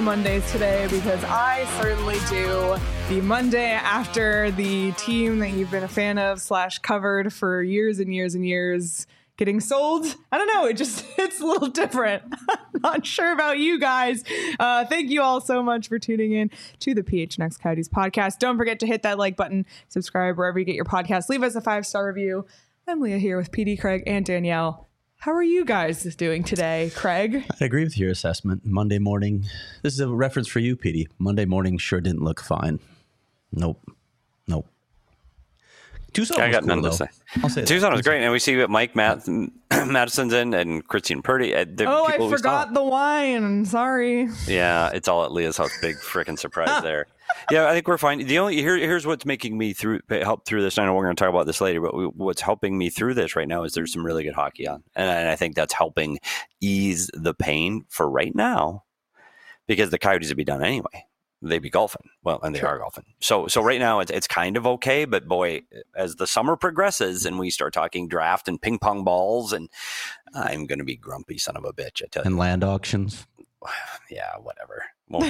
Mondays today because I certainly do. The Monday after the team that you've been a fan of / covered for years and years and years getting sold. I don't know. It's a little different. I'm not sure about you guys. Thank you all so much for tuning in to the PHNX Coyotes podcast. Don't forget to hit that like button, subscribe wherever you get your podcast. Leave us a 5-star review. I'm Leah here with PD, Craig, and Danielle. How are you guys doing today, Craig? I agree with your assessment. Monday morning. This is a reference for you, PD. Monday morning sure didn't look fine. Nope. Tucson I got cool, none though. to say. I'll say Tucson was great, and we see Mike Madison's in and Christine Purdy. I forgot the wine. Sorry. Yeah, it's all at Leah's house. Big freaking surprise there. Yeah, I think we're fine. Here's what's making me help through this. I know we're going to talk about this later, but what's helping me through this right now is there's some really good hockey on, and I think that's helping ease the pain for right now, because the Coyotes would be done anyway. They'd be golfing. Well, and they are golfing. So right now it's kind of okay, but boy, as the summer progresses and we start talking draft and ping pong balls, and I'm going to be grumpy son of a bitch, I tell you. And land auctions. Yeah, whatever.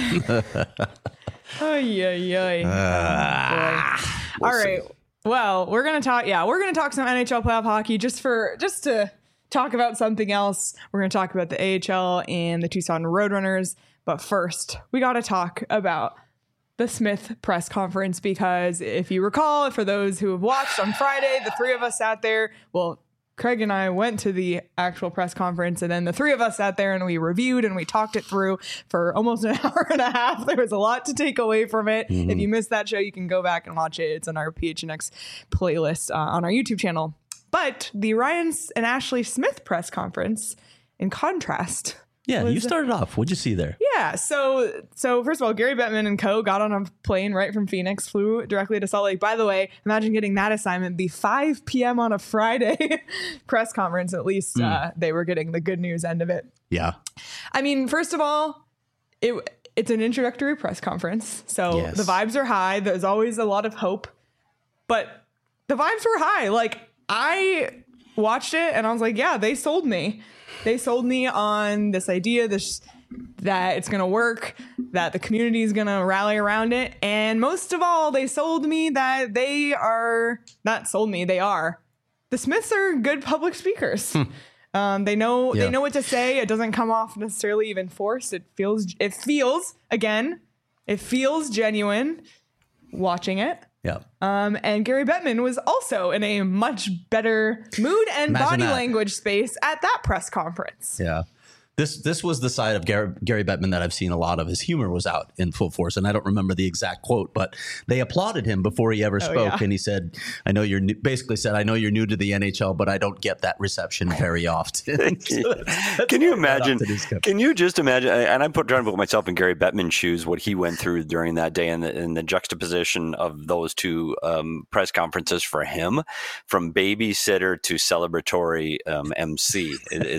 All right. Well, we're going to talk. Yeah, we're going to talk some NHL playoff hockey just to talk about something else. We're going to talk about the AHL and the Tucson Roadrunners. But first, we got to talk about the Smith press conference, because if you recall, for those who have watched on Friday, the three of us sat there. Well, Craig and I went to the actual press conference, and then the three of us sat there and we reviewed and we talked it through for almost an hour and a half. There was a lot to take away from it. Mm-hmm. If you missed that show, you can go back and watch it. It's on our PHNX playlist on our YouTube channel. But the Ryan and Ashley Smith press conference, in contrast... Yeah, you started off. What'd you see there? Yeah, so first of all, Gary Bettman and co. got on a plane right from Phoenix, flew directly to Salt Lake. By the way, imagine getting that assignment, the 5 p.m. on a Friday press conference. At least they were getting the good news end of it. Yeah. I mean, first of all, it's an introductory press conference, so The vibes are high. There's always a lot of hope, but the vibes were high. Like, I watched it and I was like, yeah, they sold me. They sold me on this idea that it's going to work, that the community is going to rally around it. And most of all, they sold me that they are the Smiths are good public speakers. They know what to say. It doesn't come off necessarily even forced. It feels genuine watching it. Yeah. And Gary Bettman was also in a much better mood and body language space at that press conference. Yeah. This was the side of Gary Bettman that I've seen a lot of. His humor was out in full force, and I don't remember the exact quote, but they applauded him before he ever spoke, and he said, "I know you're new to the NHL, but I don't get that reception very often." Can you imagine? Can you just imagine? And I'm trying to put myself in Gary Bettman's shoes, what he went through during that day, and the juxtaposition of those two press conferences for him, from babysitter to celebratory MC,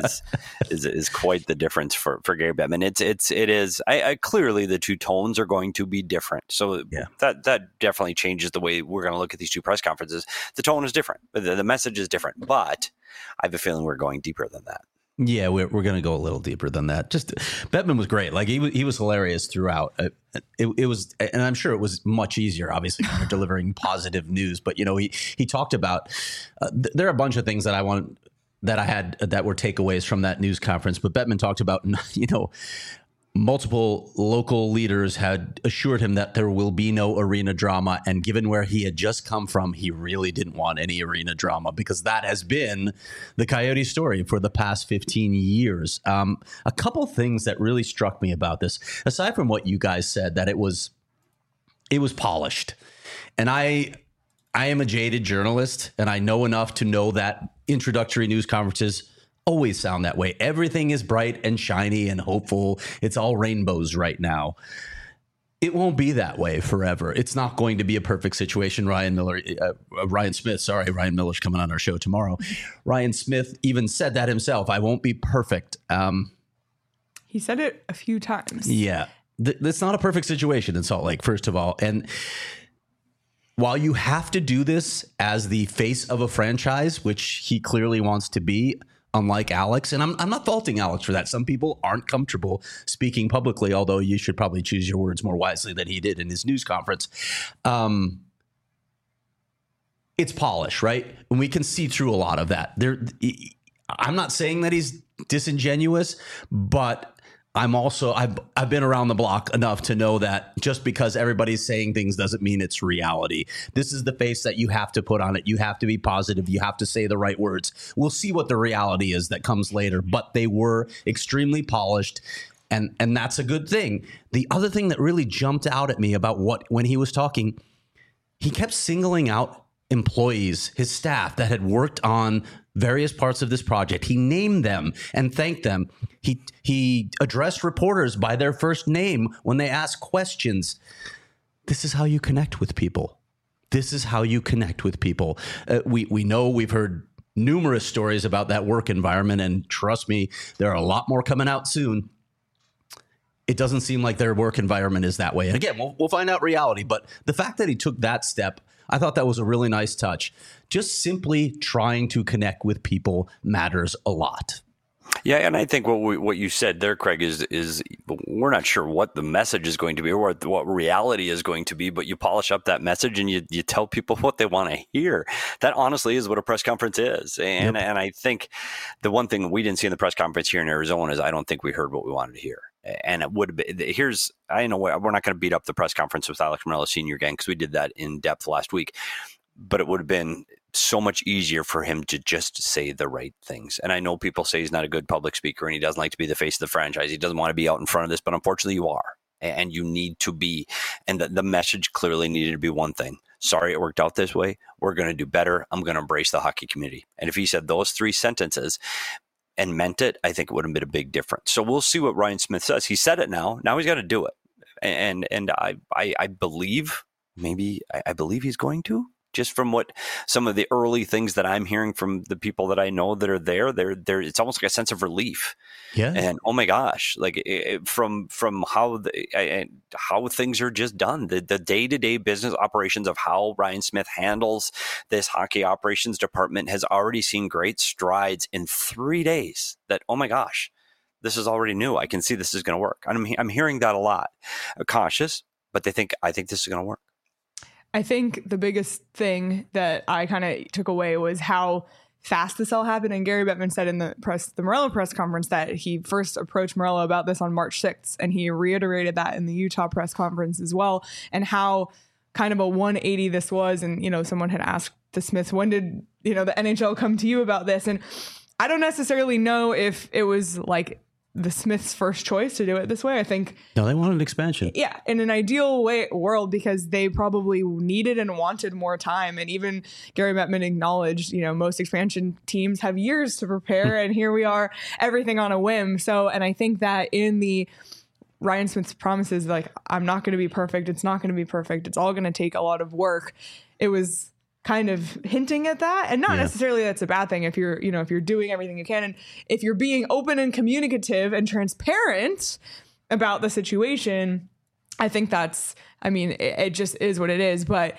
is quite the difference for Gary Bettman. It is clearly the two tones are going to be different. So that definitely changes the way we're going to look at these two press conferences. The tone is different. The message is different, but I have a feeling we're going deeper than that. Yeah, we're going to go a little deeper than that. Just Bettman was great. Like he was hilarious throughout. It was, and I'm sure it was much easier, obviously, when you're delivering positive news. But he talked about there are a bunch of things that I had that were takeaways from that news conference. But Bettman talked about, multiple local leaders had assured him that there will be no arena drama. And given where he had just come from, he really didn't want any arena drama, because that has been the Coyote story for the past 15 years. A couple things that really struck me about this, aside from what you guys said, that it was polished. And I am a jaded journalist, and I know enough to know that introductory news conferences always sound that way. Everything is bright and shiny and hopeful. It's all rainbows right now. It won't be that way forever. It's not going to be a perfect situation. Ryan Smith, Ryan Miller's coming on our show tomorrow. Ryan Smith even said that himself. I won't be perfect. He said it a few times. Yeah. It's not a perfect situation in Salt Lake, first of all. And while you have to do this as the face of a franchise, which he clearly wants to be, unlike Alex. And I'm not faulting Alex for that. Some people aren't comfortable speaking publicly, although you should probably choose your words more wisely than he did in his news conference. It's polish, right? And we can see through a lot of that. I'm not saying that he's disingenuous, but I've been around the block enough to know that just because everybody's saying things doesn't mean it's reality. This is the face that you have to put on it. You have to be positive. You have to say the right words. We'll see what the reality is that comes later, but they were extremely polished, and that's a good thing. The other thing that really jumped out at me about when he was talking, he kept singling out employees, his staff that had worked on various parts of this project. He named them and thanked them. He addressed reporters by their first name when they asked questions. This is how you connect with people. This is how you connect with people. We know, we've heard numerous stories about that work environment, and trust me, there are a lot more coming out soon. It doesn't seem like their work environment is that way. And again, we'll find out reality. But the fact that he took that step, I thought that was a really nice touch. Just simply trying to connect with people matters a lot. Yeah, and I think what you said there, Craig, is we're not sure what the message is going to be or what reality is going to be, but you polish up that message and you tell people what they want to hear. That honestly is what a press conference is. And yep. And I think the one thing we didn't see in the press conference here in Arizona is I don't think we heard what we wanted to hear. And it would be, I know we're not going to beat up the press conference with Alex Meruelo Sr. again, because we did that in depth last week, but it would have been so much easier for him to just say the right things. And I know people say he's not a good public speaker and he doesn't like to be the face of the franchise. He doesn't want to be out in front of this, but unfortunately you are, and you need to be. And the message clearly needed to be one thing. Sorry it worked out this way. We're going to do better. I'm going to embrace the hockey community. And if he said those 3 sentences and meant it, I think it would have been a big difference. So we'll see what Ryan Smith says. He said it now. Now he's got to do it. And I believe, I believe he's going to. Just from what some of the early things that I'm hearing from the people that I know that are there, it's almost like a sense of relief. Yeah. And oh my gosh, like from how how things are just done, the day-to-day business operations of how Ryan Smith handles this hockey operations department has already seen great strides in 3 days. That, oh my gosh, this is already new. I can see this is going to work. I'm hearing that a lot. Cautious, but I think this is going to work. I think the biggest thing that I kind of took away was how fast this all happened. And Gary Bettman said in the Meruelo press conference that he first approached Meruelo about this on March 6th. And he reiterated that in the Utah press conference as well. And how kind of a 180 this was. And, someone had asked the Smiths, when did, the NHL come to you about this? And I don't necessarily know if it was like the Smiths' first choice to do it this way. I think no, they wanted expansion. Yeah, in an ideal world, because they probably needed and wanted more time. And even Gary Bettman acknowledged, most expansion teams have years to prepare, and here we are, everything on a whim. So, and I think that in the Ryan Smith's promises, like, I'm not going to be perfect. It's not going to be perfect. It's all going to take a lot of work. It was kind of hinting at that, and not necessarily that's a bad thing if you're doing everything you can, and if you're being open and communicative and transparent about the situation. I think that's, it just is what it is. But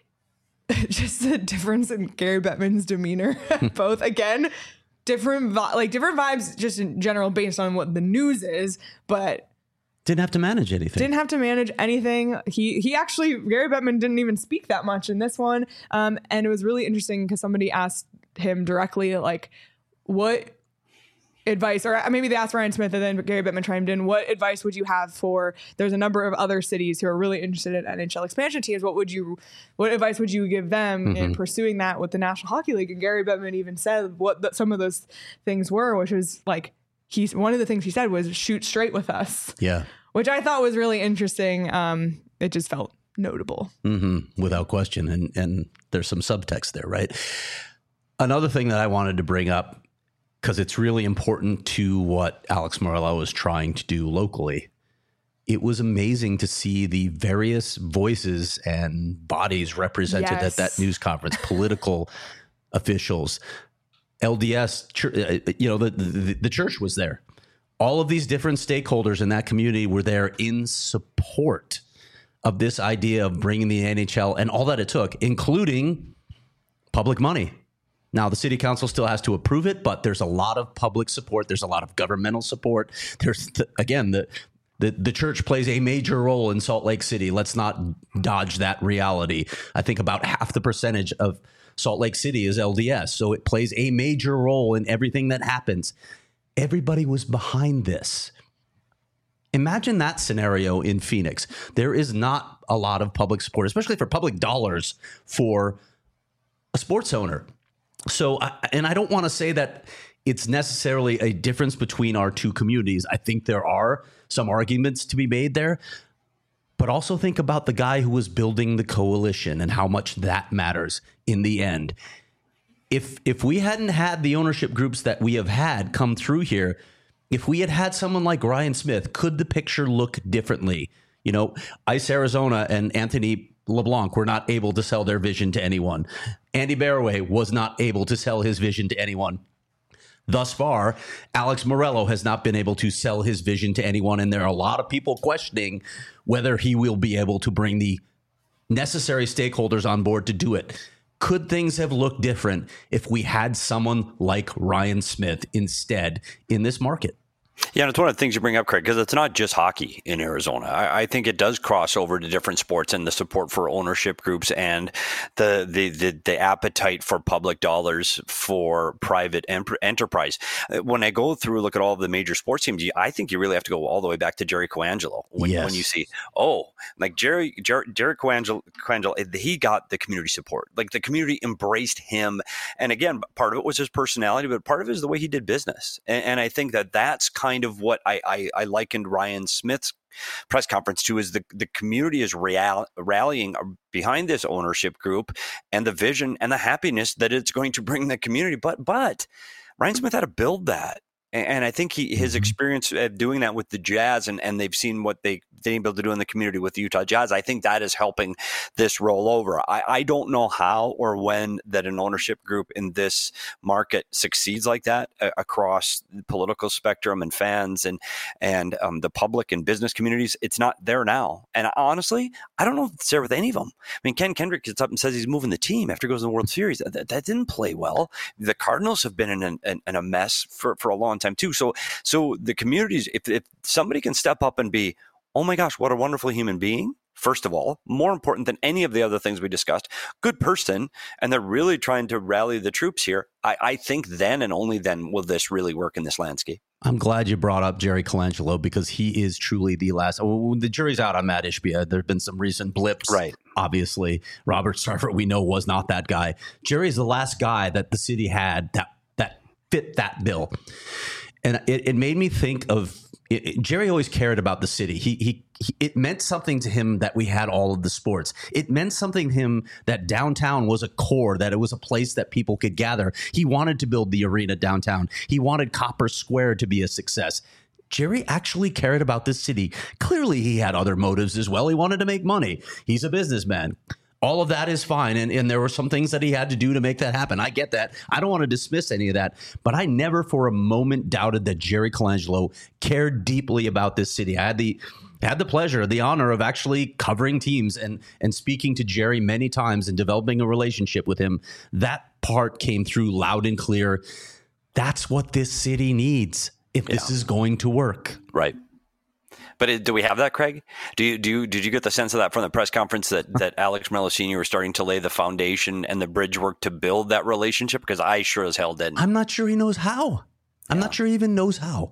just the difference in Gary Bettman's demeanor, both, again, different vibes just in general based on what the news is, but didn't have to manage anything. He actually, Gary Bettman didn't even speak that much in this one. And it was really interesting because somebody asked him directly, like, what advice, or maybe they asked Ryan Smith and then Gary Bettman chimed in, what advice would you have for, there's a number of other cities who are really interested in NHL expansion teams. What advice would you give them in pursuing that with the National Hockey League? And Gary Bettman even said what some of those things were, which was like, one of the things he said was shoot straight with us. Yeah. Which I thought was really interesting. It just felt notable. Without question. And there's some subtext there, right? Another thing that I wanted to bring up, because it's really important to what Alex Meruelo is trying to do locally. It was amazing to see the various voices and bodies represented at that news conference, political officials, LDS, the church was there. All of these different stakeholders in that community were there in support of this idea of bringing the NHL and all that it took, including public money. Now, the city council still has to approve it, but there's a lot of public support. There's a lot of governmental support. There's, again, the church plays a major role in Salt Lake City. Let's not dodge that reality. I think about half the percentage of Salt Lake City is LDS, so it plays a major role in everything that happens. Everybody was behind this. Imagine that scenario in Phoenix. There is not a lot of public support, especially for public dollars, for a sports owner. So, and I don't want to say that it's necessarily a difference between our two communities. I think there are some arguments to be made there. But also think about the guy who was building the coalition and how much that matters in the end. If we hadn't had the ownership groups that we have had come through here, if we had had someone like Ryan Smith, could the picture look differently? You know, Ice Arizona and Anthony LeBlanc were not able to sell their vision to anyone. Andy Barraway was not able to sell his vision to anyone. Thus far, Alex Morello has not been able to sell his vision to anyone, and there are a lot of people questioning whether he will be able to bring the necessary stakeholders on board to do it. Could things have looked different if we had someone like Ryan Smith instead in this market? Yeah, and it's one of the things you bring up, Craig, because it's not just hockey in Arizona. I think it does cross over to different sports, and the support for ownership groups and the appetite for public dollars for private enterprise. When I go through, look at all of the major sports teams, I think you really have to go all the way back to Jerry Coangelo when you see, like Jerry Coangelo, he got the community support. Like the community embraced him. And again, part of it was his personality, but part of it is the way he did business. And I think that's kind of what I likened Ryan Smith's press conference to, is the community is rallying behind this ownership group and the vision and the happiness that it's going to bring the community. But Ryan Smith had to build that. And I think his experience at doing that with the Jazz, and they've seen what they've been able to do in the community with the Utah Jazz, I think that is helping this roll over. I don't know how or when that an ownership group in this market succeeds like that across the political spectrum and fans and the public and business communities. It's not there now. And honestly, I don't know if it's there with any of them. I mean, Ken Kendrick gets up and says he's moving the team after he goes to the World Series. That didn't play well. The Cardinals have been in a mess for a long time too. So the communities, if somebody can step up and be, oh my gosh, what a wonderful human being, first of all, more important than any of the other things we discussed, good person, and they're really trying to rally the troops here, I think then and only then will this really work in this landscape. I'm glad you brought up Jerry Colangelo, because he is truly the last. The jury's out on Matt Ishbia. There have been some recent blips. Right. Obviously, Robert Sarver, we know, was not that guy. Jerry's the last guy that the city had that fit that bill. And it made me think of Jerry always cared about the city. It meant something to him that we had all of the sports. It meant something to him that downtown was a core, that it was a place that people could gather. He wanted to build the arena downtown. He wanted Copper Square to be a success. Jerry actually cared about this city. Clearly, he had other motives as well. He wanted to make money. He's a businessman. All of that is fine. And there were some things that he had to do to make that happen. I get that. I don't want to dismiss any of that. But I never for a moment doubted that Jerry Colangelo cared deeply about this city. I had the pleasure, the honor of actually covering teams and speaking to Jerry many times and developing a relationship with him. That part came through loud and clear. That's what this city needs if this is going to work. Right. But do we have that, Craig? Did you get the sense of that from the press conference that Alex Morello Sr. was starting to lay the foundation and the bridge work to build that relationship? Because I sure as hell didn't. I'm not sure he knows how. I'm not sure he even knows how.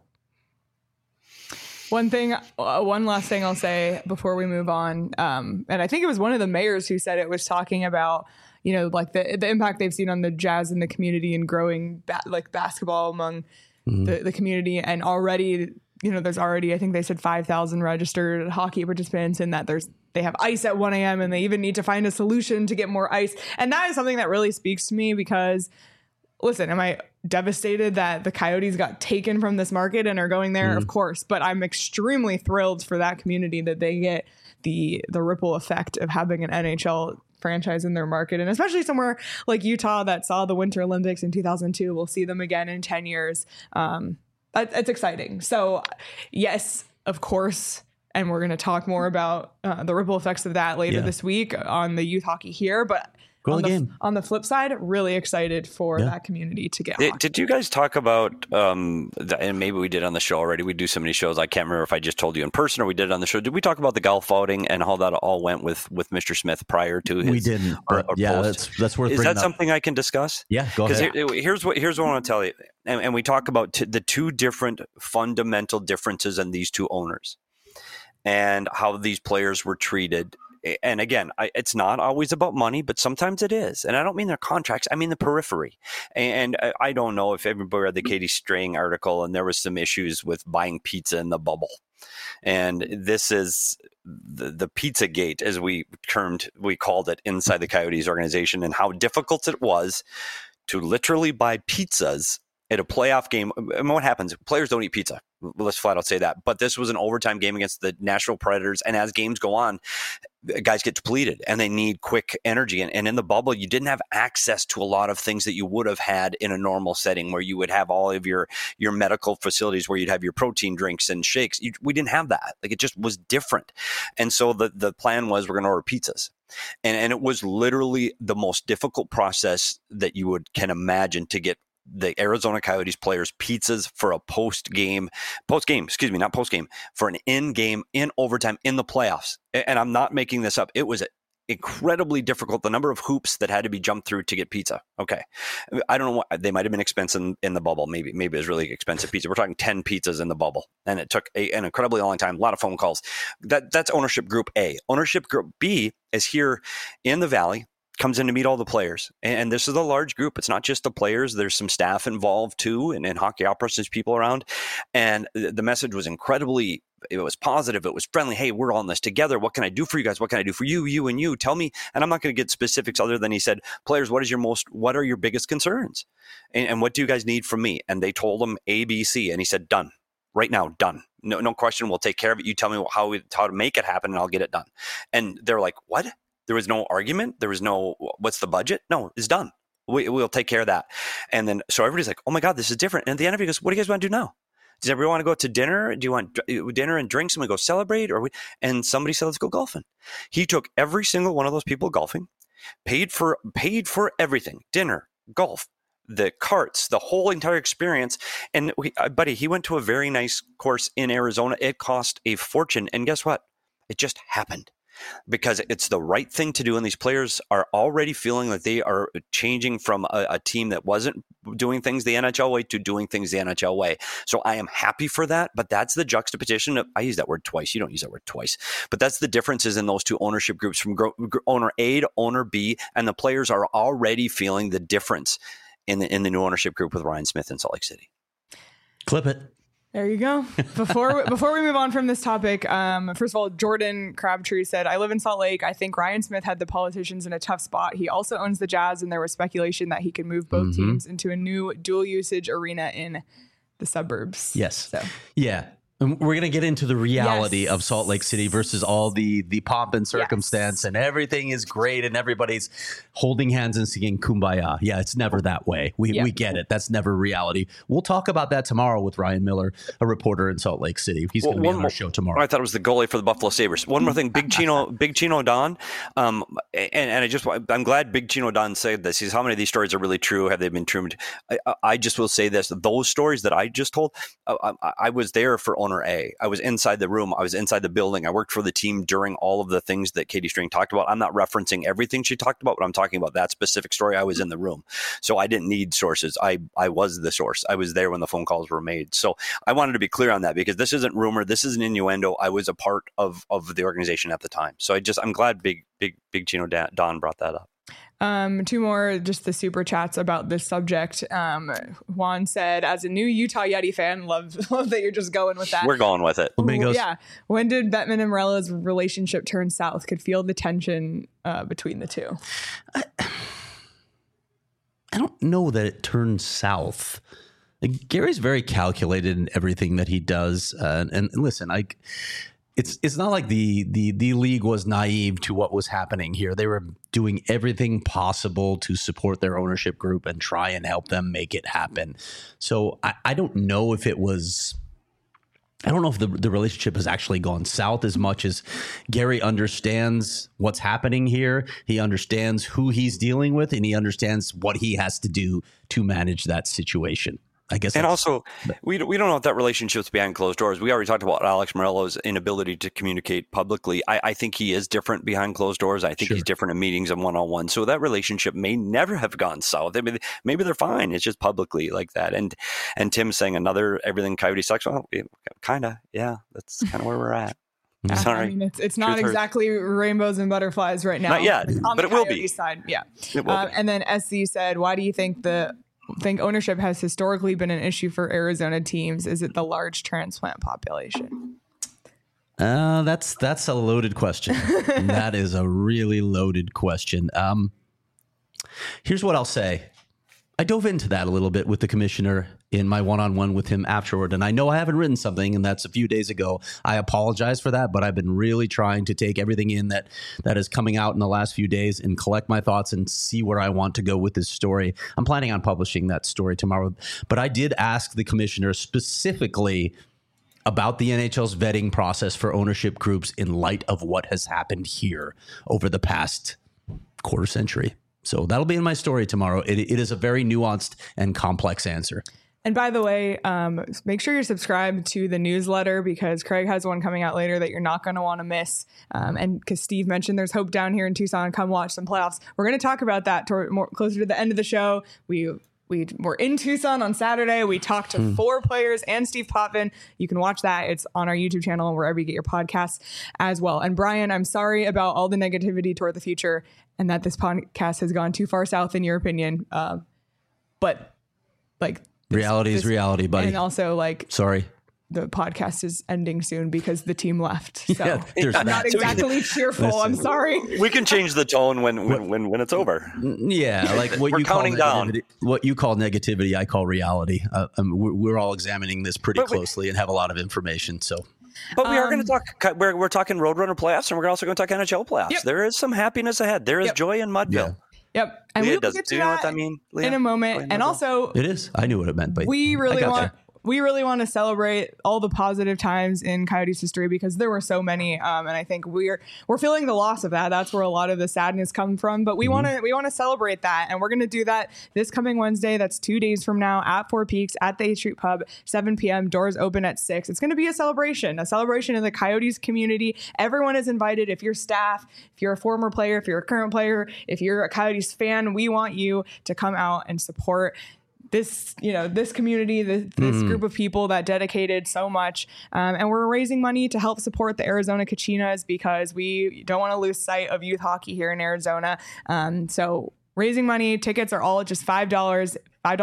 One last thing I'll say before we move on, and I think it was one of the mayors who said it, was talking about, you know, like the impact they've seen on the Jazz in the community and growing basketball among the community, and already. You know, there's already, I think they said 5,000 registered hockey participants, and that they have ice at 1 a.m. and they even need to find a solution to get more ice. And that is something that really speaks to me because, listen, am I devastated that the Coyotes got taken from this market and are going there? Of course. But I'm extremely thrilled for that community that they get the ripple effect of having an NHL franchise in their market, and especially somewhere like Utah that saw the Winter Olympics in 2002. We'll see them again in 10 years. It's exciting. So yes, of course. And we're going to talk more about the ripple effects of that later this week on the Youth Hockey Here. But Go to the game. On the flip side, really excited for that community to get hockey. Did you guys talk about, and maybe we did on the show already, we do so many shows, I can't remember if I just told you in person or we did it on the show. Did we talk about the golf outing and how that all went with Mr. Smith prior to his? We didn't, but post? that's worth. Is that something I can discuss? Yeah, go ahead. Here's what I want to tell you, and we talk about the two different fundamental differences in these two owners and how these players were treated. And again, it's not always about money, but sometimes it is. And I don't mean their contracts. I mean the periphery. And I don't know if everybody read the Katie Strang article, and there was some issues with buying pizza in the bubble. And this is the Pizza Gate, as we called it inside the Coyotes organization, and how difficult it was to literally buy pizzas at a playoff game. And what happens? Players don't eat pizza. Let's flat out say that. But this was an overtime game against the Nashville Predators. And as games go on, guys get depleted and they need quick energy. And in the bubble, you didn't have access to a lot of things that you would have had in a normal setting where you would have all of your medical facilities where you'd have your protein drinks and shakes. We didn't have that. Like, it just was different. And so the plan was, we're going to order pizzas. And it was literally the most difficult process that you can imagine to get the Arizona Coyotes players pizzas for a for an in-game, in overtime, in the playoffs. And I'm not making this up. It was incredibly difficult. The number of hoops that had to be jumped through to get pizza. Okay. I don't know what, they might've been expensive in the bubble. Maybe it was really expensive pizza. We're talking 10 pizzas in the bubble. And it took an incredibly long time, a lot of phone calls. That's ownership group A. Ownership group B is here in the Valley, comes in to meet all the players. And this is a large group. It's not just the players. There's some staff involved too. And hockey operas, there's people around. And the message was it was positive. It was friendly. Hey, we're all in this together. What can I do for you guys? What can I do for you, you, and you? Tell me. And I'm not going to get specifics other than he said, players, what are your biggest concerns? And what do you guys need from me? And they told him A, B, C. And he said, done. Right now, done. No question. We'll take care of it. You tell me how to make it happen and I'll get it done. And they're like, what? There was no argument. There was no, what's the budget? No, it's done. We'll take care of that. And then, so everybody's like, oh my God, this is different. And at the end of it, he goes, what do you guys want to do now? Does everyone want to go to dinner? Do you want dinner and drinks and we go celebrate? And somebody said, let's go golfing. He took every single one of those people golfing, paid for everything, dinner, golf, the carts, the whole entire experience. And he went to a very nice course in Arizona. It cost a fortune. And guess what? It just happened. Because it's the right thing to do. And these players are already feeling that they are changing from a team that wasn't doing things the NHL way to doing things the NHL way. So I am happy for that. But that's the juxtaposition. I use that word twice. You don't use that word twice. But that's the differences in those two ownership groups from owner A to owner B. And the players are already feeling the difference in the new ownership group with Ryan Smith in Salt Lake City. Clip it. There you go. Before we move on from this topic, first of all, Jordan Crabtree said, I live in Salt Lake. I think Ryan Smith had the politicians in a tough spot. He also owns the Jazz, and there was speculation that he could move both teams into a new dual usage arena in the suburbs. Yes. So. Yeah. We're going to get into the reality of Salt Lake City versus all the pomp and circumstance, and everything is great and everybody's holding hands and singing Kumbaya. Yeah, it's never that way. We get it. That's never reality. We'll talk about that tomorrow with Ryan Miller, a reporter in Salt Lake City. He's going to be on our show tomorrow. I thought it was the goalie for the Buffalo Sabres. One more thing, Big Chino Don. I'm glad Big Chino Don said this. He says, how many of these stories are really true? Have they been true? I just will say this. Those stories that I just told, I was there for owner A. I was inside the room. I was inside the building. I worked for the team during all of the things that Katie Strang talked about. I'm not referencing everything she talked about, but I'm talking about that specific story. I was in the room. So I didn't need sources. I was the source. I was there when the phone calls were made. So I wanted to be clear on that because this isn't rumor. This is an innuendo. I was a part of the organization at the time. So I'm glad Big Chino Don brought that up. Two more, just the super chats about this subject. Juan said, as a new Utah Yeti fan, love that you're just going with that. We're going with it. Yeah. When did Bettman and Morella's relationship turn south? Could feel the tension between the two. I don't know that it turned south. Like, Gary's very calculated in everything that he does. And listen, It's not like the league was naive to what was happening here. They were doing everything possible to support their ownership group and try and help them make it happen. So I don't know if it was I don't know if the relationship has actually gone south as much as Gary understands what's happening here. He understands who he's dealing with, and he understands what he has to do to manage that situation. I guess. And also, we don't know if that relationship's behind closed doors. We already talked about Alex Morello's inability to communicate publicly. I think he is different behind closed doors. I think he's different in meetings and one-on-one. So that relationship may never have gone south. I mean, maybe they're fine. It's just publicly like that. And Tim saying everything Coyote sucks. Well, kind of. Yeah, that's kind of where we're at. Sorry. I mean, it's not exactly rainbows and butterflies right now. Not yet, but it will be. Side. Yeah. And then SC said, why do you think ownership has historically been an issue for Arizona teams? Is it the large transplant population? That's a loaded question. That is a really loaded question. Here's what I'll say. I dove into that a little bit with the commissioner in my one-on-one with him afterward. And I know I haven't written something, and that's a few days ago. I apologize for that, but I've been really trying to take everything in that is coming out in the last few days and collect my thoughts and see where I want to go with this story. I'm planning on publishing that story tomorrow. But I did ask the commissioner specifically about the NHL's vetting process for ownership groups in light of what has happened here over the past quarter century. So that'll be in my story tomorrow. It is a very nuanced and complex answer. And by the way, make sure you're subscribed to the newsletter, because Craig has one coming out later that you're not going to want to miss. And because Steve mentioned there's hope down here in Tucson, come watch some playoffs. We're going to talk about that closer to the end of the show. We were in Tucson on Saturday. We talked to 4 players and Steve Potvin. You can watch that. It's on our YouTube channel and wherever you get your podcasts as well. And Brian, I'm sorry about all the negativity toward the future and that this podcast has gone too far south in your opinion. But like reality is reality, buddy. And also sorry. The podcast is ending soon because the team left. So yeah, I'm not exactly cheerful. Listen, I'm sorry. We can change the tone when it's over. Yeah, like what you counting down. What you call negativity, I call reality. We're all examining this pretty closely and have a lot of information. So, but we are going to talk. We're talking Roadrunner playoffs, and we're also going to talk NHL playoffs. Yep. There is some happiness ahead. There is joy in Mudville. Yeah. Yep. And we'll get to that in a moment. And also, it is. I knew what it meant, but we really want to celebrate all the positive times in Coyotes history, because there were so many, and I think we're feeling the loss of that. That's where a lot of the sadness comes from. But we want to celebrate that, and we're going to do that this coming Wednesday. That's 2 days from now at Four Peaks at the 8th Street Pub, 7 p.m. Doors open at 6. It's going to be a celebration in the Coyotes community. Everyone is invited. If you're staff, if you're a former player, if you're a current player, if you're a Coyotes fan, we want you to come out and support this community, this group of people that dedicated so much. And we're raising money to help support the Arizona Kachinas, because we don't want to lose sight of youth hockey here in Arizona. So raising money, tickets are all just $5.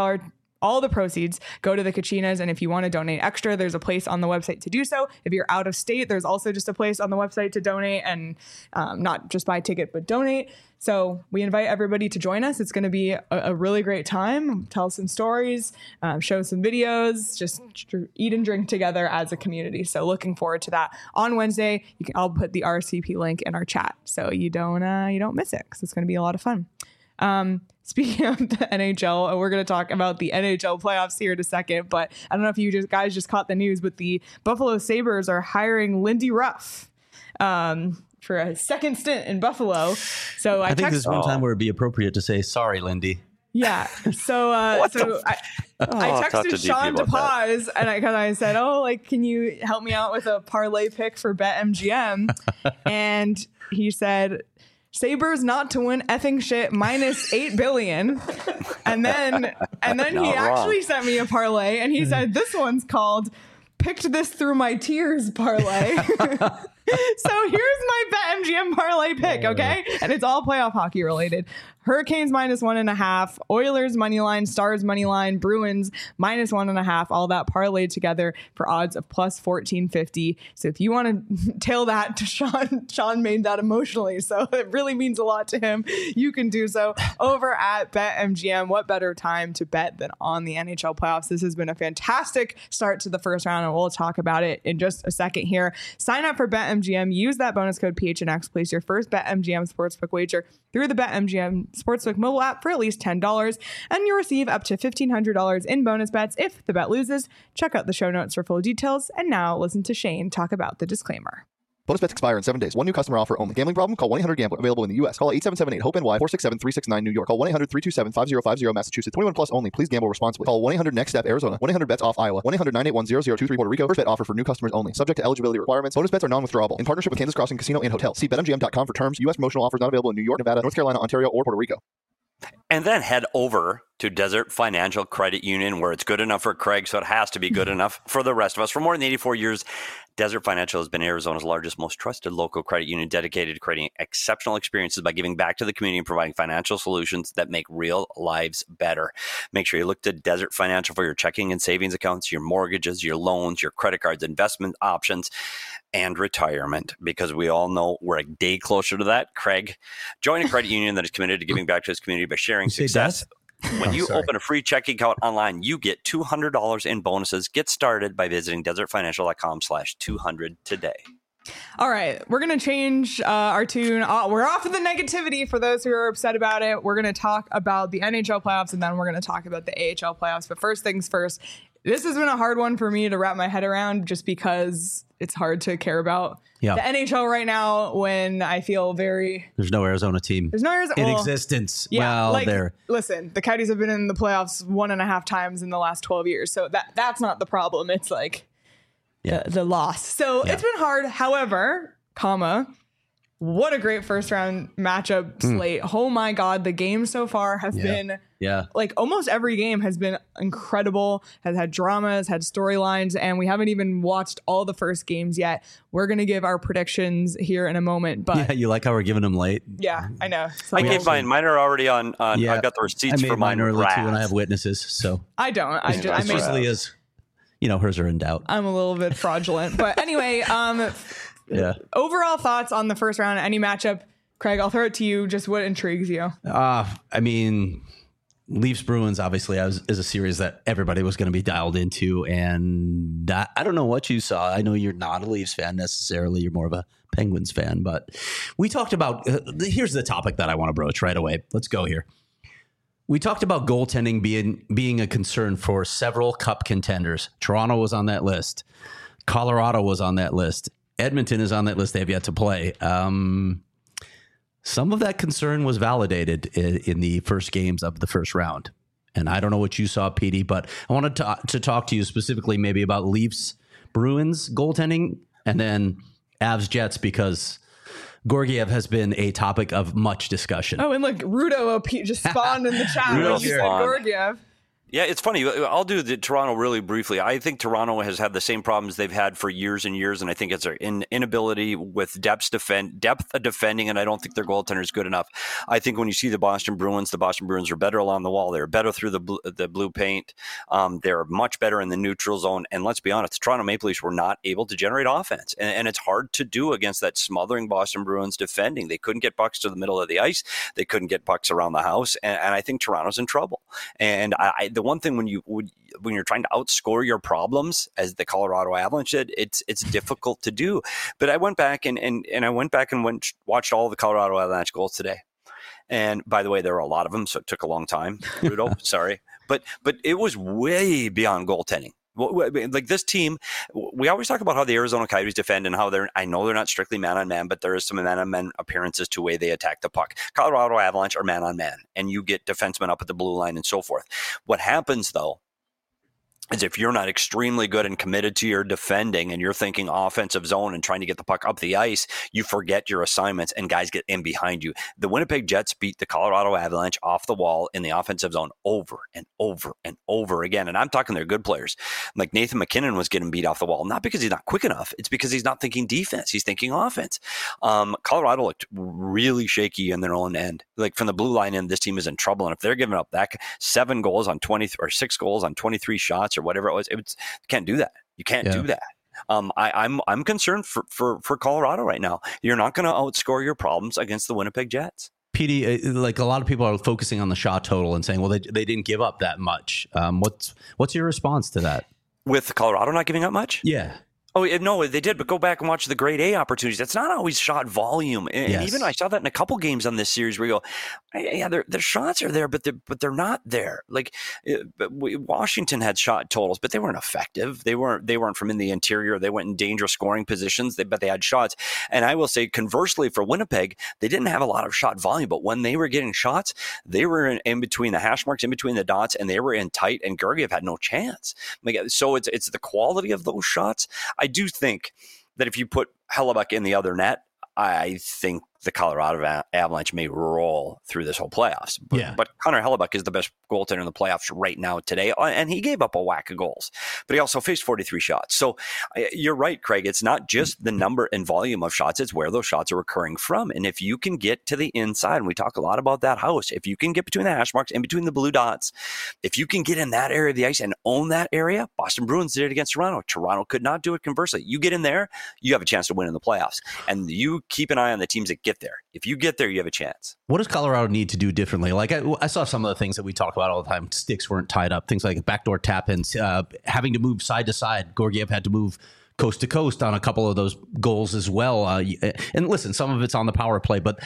All the proceeds go to the Kachinas. And if you want to donate extra, there's a place on the website to do so. If you're out of state, there's also just a place on the website to donate, and not just buy a ticket, but donate. So we invite everybody to join us. It's going to be a really great time. Tell some stories, show some videos, just eat and drink together as a community. So looking forward to that on Wednesday. I'll put the RSVP link in our chat so you don't miss it, because it's going to be a lot of fun. Speaking of the NHL, we're going to talk about the NHL playoffs here in a second, but I don't know if you guys just caught the news, but the Buffalo Sabres are hiring Lindy Ruff for a second stint in Buffalo. So I think there's one time where it'd be appropriate to say, sorry, Lindy. Yeah. So I texted Sean DePaz and I said, can you help me out with a parlay pick for BetMGM? And he said, Sabres not to win effing shit -8 billion. And then he actually sent me a parlay, and he said, this one's called Picked This Through My Tears parlay. So here's my BetMGM parlay pick, okay? And it's all playoff hockey related. Hurricanes -1.5, Oilers moneyline, Stars moneyline, Bruins -1.5, all that parlayed together for odds of +1450. So if you want to tail that to Sean made that emotionally, so it really means a lot to him. You can do so over at BetMGM. What better time to bet than on the NHL playoffs? This has been a fantastic start to the first round, and we'll talk about it in just a second here. Sign up for BetMGM. Use that bonus code PHNX. Place your first BetMGM sportsbook wager through the BetMGM Sportsbook mobile app for at least $10, and you receive up to $1,500 in bonus bets if the bet loses. Check out the show notes for full details. And now listen to Shane talk about the disclaimer. Bonus bets expire in 7 days. One new customer offer only. Gambling problem? Call 1-800-GAMBLER. Available in the U.S. Call 877-8-HOPE-NY, 467-369 New York. Call 1-800-327-5050 Massachusetts. 21 plus only. Please gamble responsibly. Call 1-800-NEXT-STEP Arizona. 1-800-BETS-OFF Iowa. 1-800-981-0023 Puerto Rico. First bet offer for new customers only. Subject to eligibility requirements. Bonus bets are non-withdrawable. In partnership with Kansas Crossing Casino and Hotel. See BetMGM.com for terms. U.S. promotional offers not available in New York, Nevada, North Carolina, Ontario, or Puerto Rico. And then head over to Desert Financial Credit Union, where it's good enough for Craig, so it has to be good enough for the rest of us. For more than 84 years, Desert Financial has been Arizona's largest, most trusted local credit union, dedicated to creating exceptional experiences by giving back to the community and providing financial solutions that make real lives better. Make sure you look to Desert Financial for your checking and savings accounts, your mortgages, your loans, your credit cards, investment options, and retirement, because we all know we're a day closer to that. Craig, join a credit union that is committed to giving back to its community by sharing success. When you open a free checking account online, you get $200 in bonuses. Get started by visiting desertfinancial.com/200 today. All right, we're going to change our tune. We're off of the negativity for those who are upset about it. We're going to talk about the NHL playoffs, and then we're going to talk about the AHL playoffs. But first things first, this has been a hard one for me to wrap my head around, just because it's hard to care about the NHL right now when I feel There's no Arizona team. There's no Arizona in existence. Yeah, Well, listen, the Coyotes have been in the playoffs 1.5 times in the last 12 years. So that's not the problem. It's like the loss. So it's been hard. However, what a great first round matchup slate. Oh my God. The game so far has been like almost every game has been incredible, has had dramas, had storylines, and we haven't even watched all the first games yet. We're going to give our predictions here in a moment. But you like how we're giving them late? Yeah, I know. So I gave mine. Mine are already on. I've got the receipts for mine early too, and I have witnesses. So I don't. I usually is, hers are in doubt. I'm a little bit fraudulent, but anyway, overall thoughts on the first round, any matchup. Craig, I'll throw it to you. Just what intrigues you? Leafs Bruins obviously is a series that everybody was going to be dialed into, and I don't know what you saw. I know you're not a Leafs fan necessarily. You're more of a Penguins fan, but we talked about here's the topic that I want to broach right away. Let's go here. We talked about goaltending being a concern for several cup contenders. Toronto was on that list. Colorado was on that list. Edmonton is on that list. They have yet to play. Some of that concern was validated in the first games of the first round. And I don't know what you saw, Petey, but I wanted to talk to you specifically maybe about Leafs, Bruins goaltending, and then Avs Jets, because Georgiev has been a topic of much discussion. Oh, and look, Rudo just spawned in the chat when you said Georgiev. Yeah, it's funny. I'll do the Toronto really briefly. I think Toronto has had the same problems they've had for years and years, and I think it's their inability with depth of defending, and I don't think their goaltender is good enough. I think when you see the Boston Bruins are better along the wall. They're better through the blue paint. They're much better in the neutral zone. And let's be honest, the Toronto Maple Leafs were not able to generate offense, and it's hard to do against that smothering Boston Bruins defending. They couldn't get pucks to the middle of the ice. They couldn't get pucks around the house, and I think Toronto's in trouble. And the one thing when you're trying to outscore your problems, as the Colorado Avalanche did, it's difficult to do. But I went back and watched all the Colorado Avalanche goals today. And by the way, there were a lot of them, so it took a long time. Rudo, sorry, but it was way beyond goaltending. Like this team, we always talk about how the Arizona Coyotes defend and how I know they're not strictly man-on-man, but there is some man-on-man appearances to the way they attack the puck. Colorado Avalanche are man-on-man, and you get defensemen up at the blue line and so forth. What happens, though, is if you're not extremely good and committed to your defending and you're thinking offensive zone and trying to get the puck up the ice, you forget your assignments and guys get in behind you. The Winnipeg Jets beat the Colorado Avalanche off the wall in the offensive zone over and over and over again. And I'm talking they're good players. Like Nathan McKinnon was getting beat off the wall, not because he's not quick enough. It's because he's not thinking defense. He's thinking offense. Colorado looked really shaky in their own end. Like from the blue line end, this team is in trouble. And if they're giving up that 7 goals on 20 or 6 goals on 23 shots or whatever it was, you can't do that. You can't do that. I'm concerned for Colorado right now. You're not going to outscore your problems against the Winnipeg Jets. PD, like a lot of people are focusing on the shot total and saying, well, they didn't give up that much. What's your response to that? With Colorado not giving up much? Yeah. Oh, no, they did, but go back and watch the grade A opportunities. That's not always shot volume. And even I saw that in a couple games on this series where you go, yeah, their shots are there, but they're not there. Like Washington had shot totals, but they weren't effective. They weren't from in the interior. They went in dangerous scoring positions, but they had shots. And I will say, conversely, for Winnipeg, they didn't have a lot of shot volume, but when they were getting shots, they were in between the hash marks, in between the dots, and they were in tight, and Georgiev had no chance. So it's the quality of those shots. I do think that if you put Hellebuyck in the other net, I think the Colorado Avalanche may roll through this whole playoffs. But Connor Hellebuyck is the best goaltender in the playoffs right now today, and he gave up a whack of goals, but he also faced 43 shots. So you're right, Craig. It's not just the number and volume of shots, it's where those shots are occurring from. And if you can get to the inside, and we talk a lot about that house, if you can get between the hash marks and between the blue dots, if you can get in that area of the ice and own that area, Boston Bruins did it against Toronto. Toronto could not do it conversely. You get in there, you have a chance to win in the playoffs. And you keep an eye on the teams that get there. If you get there, you have a chance. What does Colorado need to do differently? Like I saw some of the things that we talk about all the time. Sticks weren't tied up. Things like backdoor tap-ins, having to move side to side. Georgiev had to move coast to coast on a couple of those goals as well. And listen, some of it's on the power play, but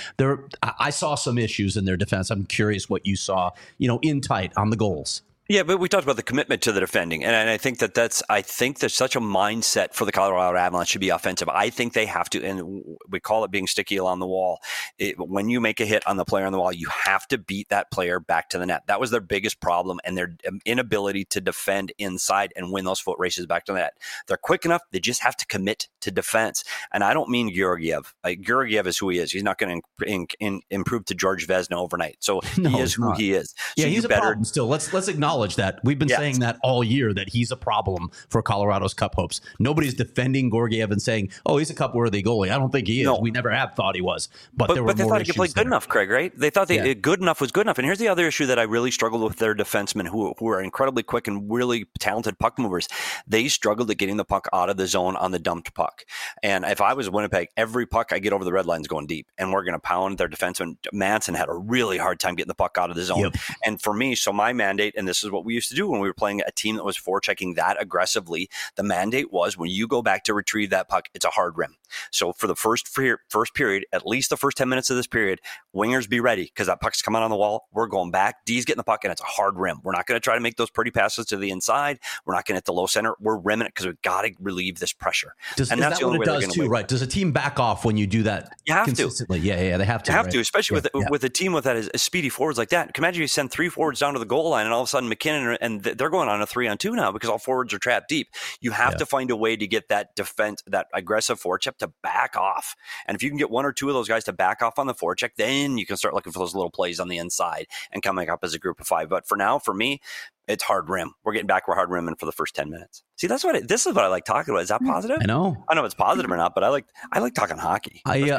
I saw some issues in their defense. I'm curious what you saw, in tight on the goals. Yeah, but we talked about the commitment to the defending, and I think there's such a mindset for the Colorado Avalanche to be offensive. I think they have to, and we call it being sticky along the wall. When you make a hit on the player on the wall, you have to beat that player back to the net. That was their biggest problem, and their inability to defend inside and win those foot races back to the net. They're quick enough; they just have to commit to defense. And I don't mean Georgiev. Georgiev is who he is. He's not going to improve to George Vezina overnight. So he is who he is. So he's a problem still. Let's acknowledge that. We've been saying that all year, that he's a problem for Colorado's Cup hopes. Nobody's defending Georgiev and saying, oh, he's a Cup-worthy goalie. I don't think he is. No. We never have thought he was. But they thought he could play good enough, Craig, right? They thought good enough was good enough. And here's the other issue that I really struggled with their defensemen, who are incredibly quick and really talented puck movers. They struggled at getting the puck out of the zone on the dumped puck. And if I was Winnipeg, every puck I get over the red line is going deep. And we're going to pound their defenseman. Manson had a really hard time getting the puck out of the zone. Yep. And for me, so my mandate, and this is what we used to do when we were playing a team that was forechecking that aggressively, the mandate was when you go back to retrieve that puck, it's a hard rim. So for the first period, at least the first 10 minutes of this period, wingers be ready because that puck's coming on the wall. We're going back. D's getting the puck, and it's a hard rim. We're not going to try to make those pretty passes to the inside. We're not going to hit the low center. We're rimming it because we've got to relieve this pressure. And that's the only way they're going to win. Right? Does a team back off when you do that? You have consistently? Yeah, they have to. You have to, especially with a team with that as speedy forwards like that. Imagine you send 3 forwards down to the goal line, and all of a sudden McKinnon and they're going on a 3-on-2 now because all forwards are trapped deep. You have to find a way to get that defense, that aggressive forecheck, to back off. And if you can get 1 or 2 of those guys to back off on the forecheck, then you can start looking for those little plays on the inside and coming up as a group of 5. But for now, for me, it's hard rim. We're getting back. We're hard rimming for the first 10 minutes. See, this is what I like talking about. Is that positive? I know if it's positive or not, but I like talking hockey.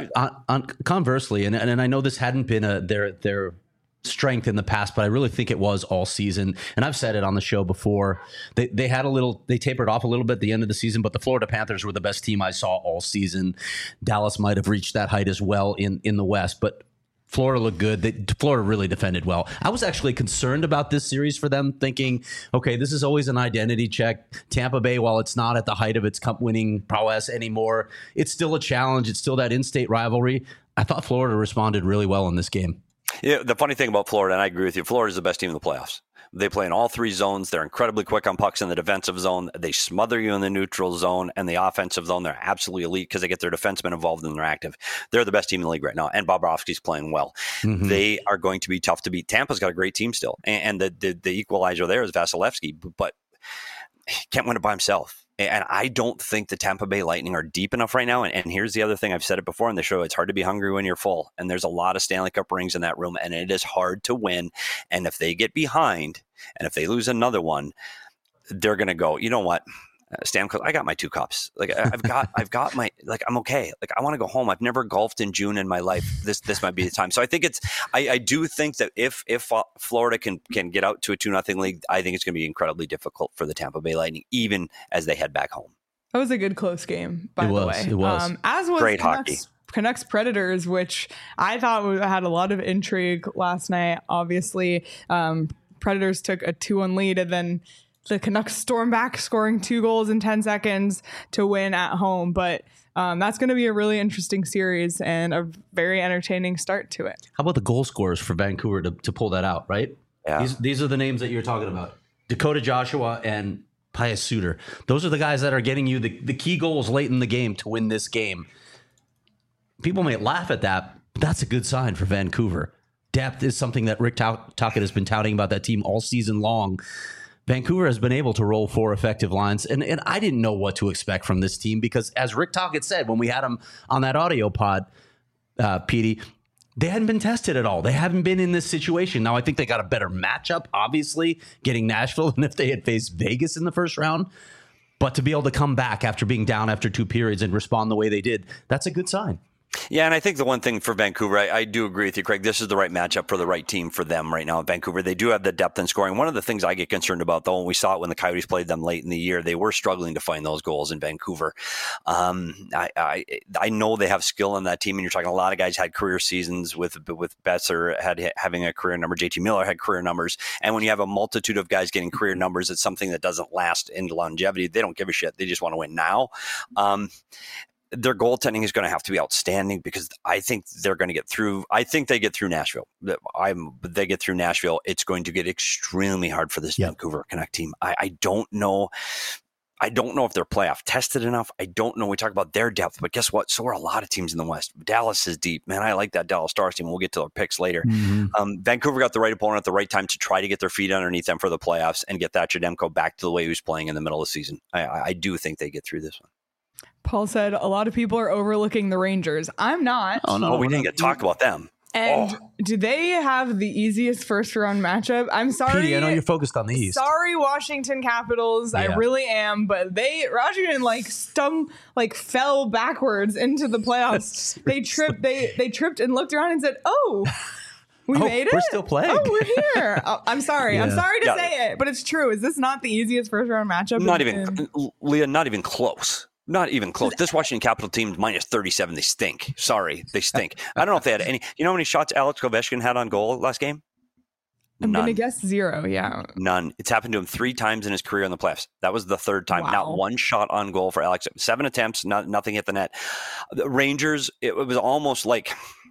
Conversely, and I know this hadn't been their strength in the past, but I really think it was all season. And I've said it on the show before. They tapered off a little bit at the end of the season, but the Florida Panthers were the best team I saw all season. Dallas might have reached that height as well in the West, but Florida looked good. Florida really defended well. I was actually concerned about this series for them, thinking, okay, this is always an identity check. Tampa Bay, while it's not at the height of its cup-winning prowess anymore, it's still a challenge. It's still that in-state rivalry. I thought Florida responded really well in this game. Yeah, the funny thing about Florida, and I agree with you, Florida's the best team in the playoffs. They play in all 3 zones. They're incredibly quick on pucks in the defensive zone. They smother you in the neutral zone, and the offensive zone, they're absolutely elite because they get their defensemen involved and they're active. They're the best team in the league right now, and Bobrovsky's playing well. Mm-hmm. They are going to be tough to beat. Tampa's got a great team still, and the equalizer there is Vasilevsky, but he can't win it by himself. And I don't think the Tampa Bay Lightning are deep enough right now. And here's the other thing. I've said it before on the show. It's hard to be hungry when you're full. And there's a lot of Stanley Cup rings in that room. And it is hard to win. And if they get behind, and if they lose another one, they're going to go, you know what? Stamkos, I got my 2 cups. Like I've got my, like, I'm okay. Like I want to go home. I've never golfed in June in my life. This might be the time. So I think I do think that if Florida can get out to a 2-0 lead, I think it's going to be incredibly difficult for the Tampa Bay Lightning, even as they head back home. That was a good close game, by the way. It was. As was great hockey. Canucks Predators, which I thought had a lot of intrigue last night. Obviously, Predators took a 2-1 lead, and then the Canucks storm back, scoring 2 goals in 10 seconds to win at home. But that's going to be a really interesting series and a very entertaining start to it. How about the goal scorers for Vancouver to pull that out, right? Yeah. These are the names that you're talking about. Dakota Joshua and Pius Suter. Those are the guys that are getting you the key goals late in the game to win this game. People may laugh at that, but that's a good sign for Vancouver. Depth is something that Rick Tocchet has been touting about that team all season long. Vancouver has been able to roll 4 effective lines, and I didn't know what to expect from this team because, as Rick Tocchet said when we had him on that audio pod, Petey, they hadn't been tested at all. They haven't been in this situation. Now, I think they got a better matchup, obviously, getting Nashville than if they had faced Vegas in the first round. But to be able to come back after being down after 2 periods and respond the way they did, that's a good sign. Yeah, and I think the one thing for Vancouver, I do agree with you, Craig. This is the right matchup for the right team for them right now in Vancouver. They do have the depth in scoring. One of the things I get concerned about, though, and we saw it when the Coyotes played them late in the year, they were struggling to find those goals in Vancouver. I know they have skill on that team, and you're talking a lot of guys had career seasons with Besser having a career number. JT Miller had career numbers. And when you have a multitude of guys getting career numbers, it's something that doesn't last in longevity. They don't give a shit. They just want to win now. Their goaltending is going to have to be outstanding because I think they're going to get through. I think they get through Nashville. They get through Nashville. It's going to get extremely hard for this Vancouver Canuck team. I don't know. I don't know if they're playoff tested enough. I don't know. We talk about their depth, but guess what? So are a lot of teams in the West. Dallas is deep. Man, I like that Dallas Stars team. We'll get to their picks later. Mm-hmm. Vancouver got the right opponent at the right time to try to get their feet underneath them for the playoffs and get Thatcher Demko back to the way he was playing in the middle of the season. I do think they get through this one. Paul said a lot of people are overlooking the Rangers. I'm not. Oh, no. We didn't get to talk about them. And do they have the easiest first-round matchup? I'm sorry. Petey, I know you're focused on the East. Sorry, Washington Capitals. Yeah. I really am. But Washington fell backwards into the playoffs. They tripped and looked around and said, "Oh, we made it. We're still playing. Oh, we're here." I'm sorry. Yeah. I'm sorry to say it, but it's true. Is this not the easiest first-round matchup? Leah, not even close. Not even close. This Washington Capital team minus 37. They stink. Sorry, they stink. I don't know if they had any. You know how many shots Alex Ovechkin had on goal last game? I'm going to guess 0. Yeah. None. It's happened to him 3 times in his career in the playoffs. That was the 3rd time. Wow. Not one shot on goal for Alex. 7 attempts. Nothing hit the net. The Rangers. It was almost like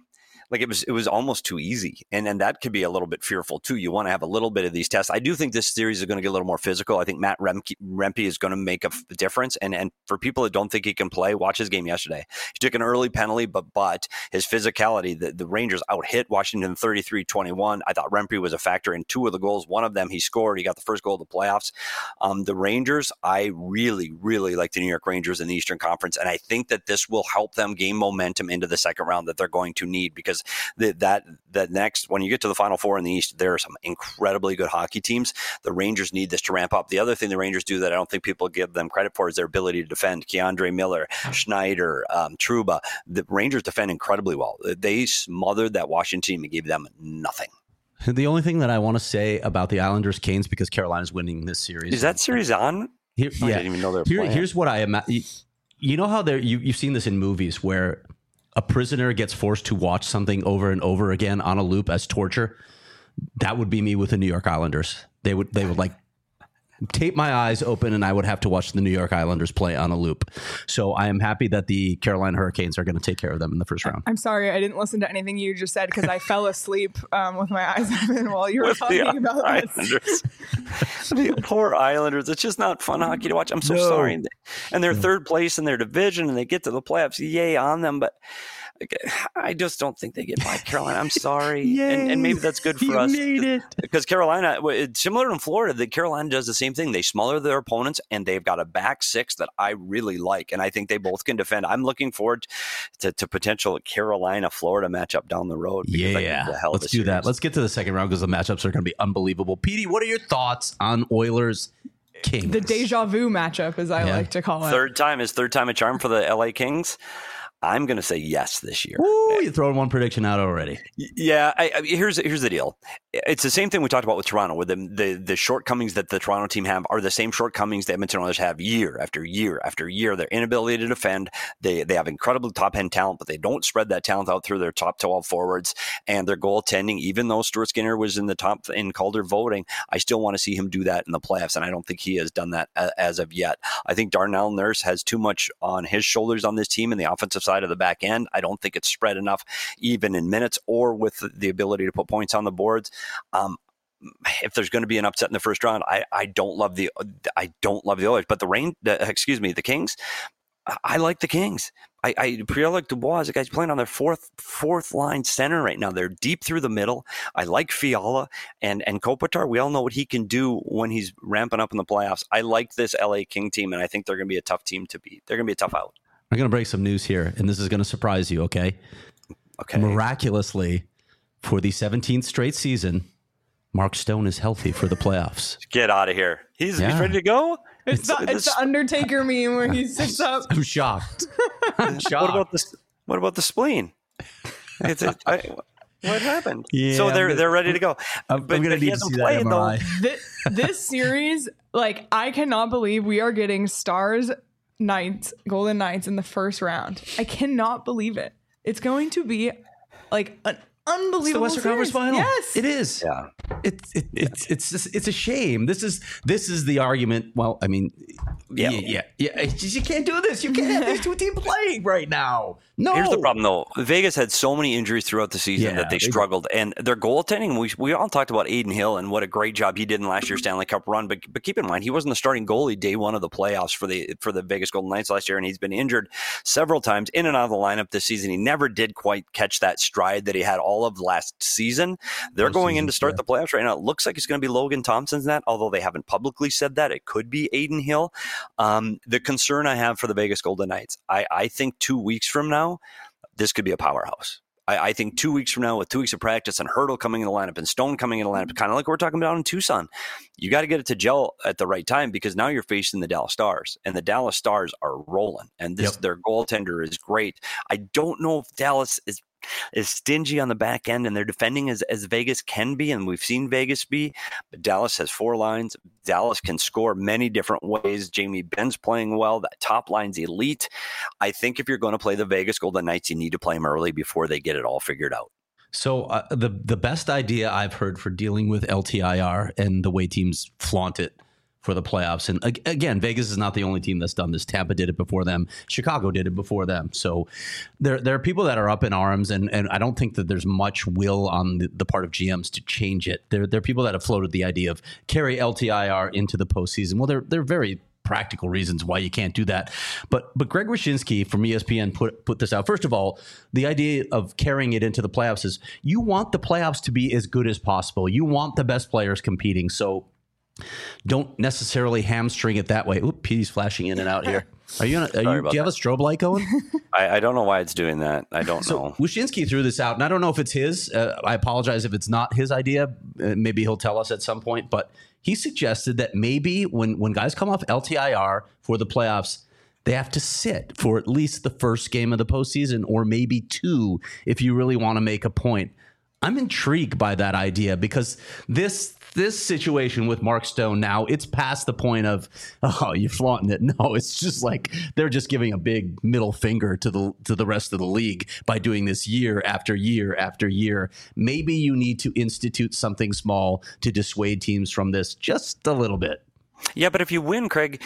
it was almost too easy. And that could be a little bit fearful too. You want to have a little bit of these tests. I do think this series is going to get a little more physical. I think Matt Rempe is going to make a difference. And for people that don't think he can play, watch his game yesterday. He took an early penalty, but his physicality, the Rangers out-hit Washington 33-21. I thought Rempe was a factor in 2 of the goals. One of them he scored. He got the first goal of the playoffs. The Rangers, I really, really like the New York Rangers in the Eastern Conference. And I think that this will help them gain momentum into the second round that they're going to need because that next, when you get to the Final Four in the East, there are some incredibly good hockey teams. The Rangers need this to ramp up. The other thing the Rangers do that I don't think people give them credit for is their ability to defend. Keandre Miller, Schneider, Trouba. The Rangers defend incredibly well. They smothered that Washington team and gave them nothing. The only thing that I want to say about the Islanders Canes, because Carolina's winning this series. Is that series on? I didn't even know they were playing. Here's what I imagine. You know how you've seen this in movies where a prisoner gets forced to watch something over and over again on a loop as torture? That would be me with the New York Islanders. They would like tape my eyes open and I would have to watch the New York Islanders play on a loop. So I am happy that the Carolina Hurricanes are going to take care of them in the first round. I'm sorry, I didn't listen to anything you just said because I fell asleep with my eyes open while you were talking about this. The poor Islanders. It's just not fun hockey to watch. I'm so sorry. And they're 3rd place in their division and they get to the playoffs. Yay on them. But I just don't think they get by Carolina. I'm sorry. And maybe that's good for us. Because Carolina, similar to Florida, Carolina does the same thing. They smother their opponents, and they've got a back 6 that I really like. And I think they both can defend. I'm looking forward to potential Carolina-Florida matchup down the road. Let's do that. Let's get to the second round because the matchups are going to be unbelievable. Petey, what are your thoughts on Oilers Kings? The deja vu matchup, as I like to call it. Third time a charm for the LA Kings. I'm going to say yes this year. Ooh, you're throwing one prediction out already. Yeah, here's the deal. It's the same thing we talked about with Toronto, where the shortcomings that the Toronto team have are the same shortcomings the Edmonton Oilers have year after year after year. Their inability to defend. They have incredible top-end talent, but they don't spread that talent out through their top 12 forwards. And their goaltending, even though Stuart Skinner was in the top in Calder voting, I still want to see him do that in the playoffs, and I don't think he has done that as of yet. I think Darnell Nurse has too much on his shoulders on this team in the offensive side of the back end. I don't think it's spread enough, even in minutes or with the ability to put points on the boards. If there's going to be an upset in the first round, I don't love the Oilers, but the Kings. I like the Kings. Pierre-Luc Dubois, the guy's playing on their fourth line center right now. They're deep through the middle. I like Fiala and Kopitar. We all know what he can do when he's ramping up in the playoffs. I like this LA King team, and I think they're going to be a tough team to beat. They're going to be a tough out. I'm going to break some news here, and this is going to surprise you, okay? Okay. Miraculously, for the 17th straight season, Mark Stone is healthy for the playoffs. Get out of here. He's ready to go? It's the Undertaker meme where he sits up. I'm shocked. I'm shocked. What about the spleen? What happened? Yeah, so they're ready to go. I'm going to need to see that MRI. This series, like, I cannot believe we are getting Stars Knights, Golden Knights in the first round. I cannot believe it. It's going to be like an unbelievable. It's the Western Conference Final. Yes, it is. Yeah, it's a shame. This is the argument. Well, I mean, yeah. It's just, you can't do this. You can't have these two teams playing right now. No. Here's the problem, though. Vegas had so many injuries throughout the season that they struggled, and their goaltending. We all talked about Adin Hill and what a great job he did in last year's Stanley Cup run. But keep in mind, he wasn't the starting goalie day one of the playoffs for the Vegas Golden Knights last year, and he's been injured several times in and out of the lineup this season. He never did quite catch that stride that he had all of last season. They're going in to start the playoffs right now. It looks like it's going to be Logan Thompson's net, although they haven't publicly said that. It could be Adin Hill. The concern I have for the Vegas Golden Knights, I think 2 weeks from now, this could be a powerhouse. I think 2 weeks from now, with 2 weeks of practice and Hurdle coming in the lineup and Stone coming in the lineup, kind of like we're talking about in Tucson, you got to get it to gel at the right time, because now you're facing the Dallas Stars, and the Dallas Stars are rolling, and their goaltender is great. I don't know if Dallas is stingy on the back end, and they're defending as Vegas can be, and we've seen Vegas be, but Dallas has four lines. Dallas can score many different ways. Jamie Benn's playing well. That top line's elite. I think if you're going to play the Vegas Golden Knights, you need to play them early before they get it all figured out. So the best idea I've heard for dealing with LTIR and the way teams flaunt it for the playoffs. And again, Vegas is not the only team that's done this. Tampa did it before them. Chicago did it before them. So there are people that are up in arms, and I don't think that there's much will on the part of GMs to change it. There are people that have floated the idea of carry LTIR into the postseason. Well, they're very practical reasons why you can't do that. But Greg Wyshynski from ESPN put this out. First of all, the idea of carrying it into the playoffs is you want the playoffs to be as good as possible. You want the best players competing. So don't necessarily hamstring it that way. Oop, Petey's flashing in and out here. Do you have a strobe light going? I don't know why it's doing that. I don't know. Wyshynski threw this out, and I don't know if it's his. I apologize if it's not his idea. Maybe he'll tell us at some point. But he suggested that maybe when guys come off LTIR for the playoffs, they have to sit for at least the first game of the postseason, or maybe two if you really want to make a point. I'm intrigued by that idea, because this situation with Mark Stone now, it's past the point of, oh, you're flaunting it. No, it's just like they're just giving a big middle finger to the rest of the league by doing this year after year after year. Maybe you need to institute something small to dissuade teams from this just a little bit. Yeah, but if you win, Craig,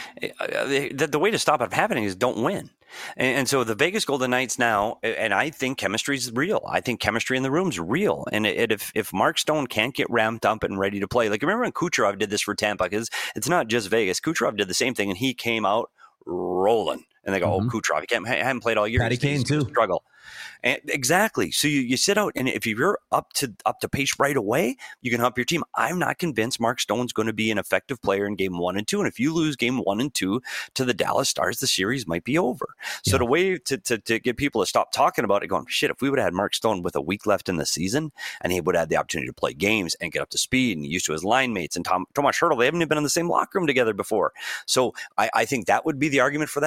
the way to stop it from happening is don't win. And so the Vegas Golden Knights now, and I think chemistry is real. I think chemistry in the room's real. And if Mark Stone can't get ramped up and ready to play, like remember when Kucherov did this for Tampa, because it's not just Vegas. Kucherov did the same thing, and he came out rolling. And they go, oh, Kucherov, he hasn't played all year. Patty Kane too. Struggle. And exactly. So you sit out, and if you're up to pace right away, you can help your team. I'm not convinced Mark Stone's going to be an effective player in game 1 and 2. And if you lose game 1 and 2 to the Dallas Stars, the series might be over. So the way to get people to stop talking about it, going, shit, if we would have had Mark Stone with a week left in the season, and he would have had the opportunity to play games and get up to speed and used to his line mates and Tomas Hurdle, they haven't even been in the same locker room together before. So I think that would be the argument for that. And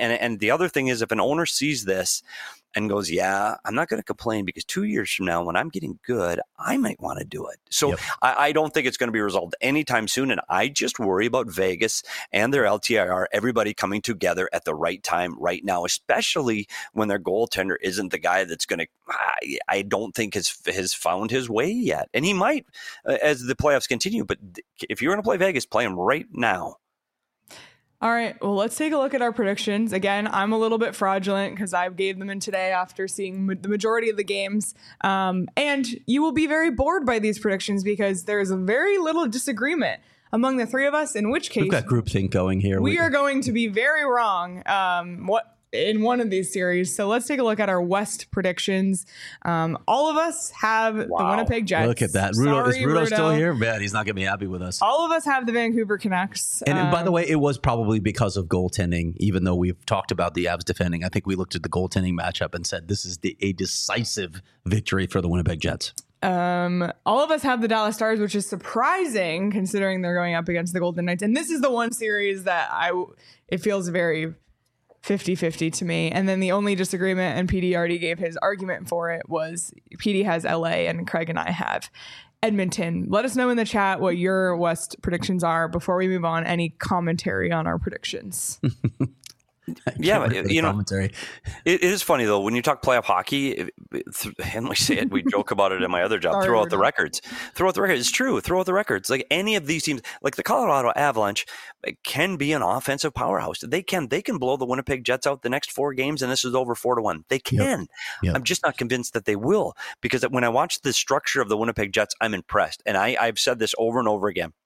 And the other thing is, if an owner sees this and goes, yeah, I'm not going to complain because 2 years from now, when I'm getting good, I might want to do it. So yep. I don't think it's going to be resolved anytime soon. And I just worry about Vegas and their LTIR, everybody coming together at the right time right now, especially when their goaltender isn't the guy that's going to, I don't think has found his way yet. And he might as the playoffs continue. But if you're going to play Vegas, play him right now. All right, well, let's take a look at our predictions. Again, I'm a little bit fraudulent because I gave them in today after seeing the majority of the games. And you will be very bored by these predictions because there's very little disagreement among the three of us, in which case... We've got groupthink going here. We are going to be very wrong in one of these series. So let's take a look at our West predictions. All of us have the Winnipeg Jets. Look at that. Is Rudo still here? Man, he's not going to be happy with us. All of us have the Vancouver Canucks. And by the way, it was probably because of goaltending, even though we've talked about the Avs defending. I think we looked at the goaltending matchup and said this is a decisive victory for the Winnipeg Jets. All of us have the Dallas Stars, which is surprising considering they're going up against the Golden Knights. And this is the one series that it feels very 50-50 to me. And then the only disagreement, and PD already gave his argument for it, was PD has LA and Craig and I have Edmonton. Let us know in the chat what your West predictions are before we move on. Any commentary on our predictions? Yeah, you know, it is funny though when you talk playoff hockey, and we say it, we joke about it in my other job. Throw out the records. It's true. Throw out the records. Like any of these teams, like the Colorado Avalanche, can be an offensive powerhouse. They can blow the Winnipeg Jets out the next 4 games, and this is over 4-1. They can. Yep. I'm just not convinced that they will, because when I watch the structure of the Winnipeg Jets, I'm impressed, and I've said this over and over again.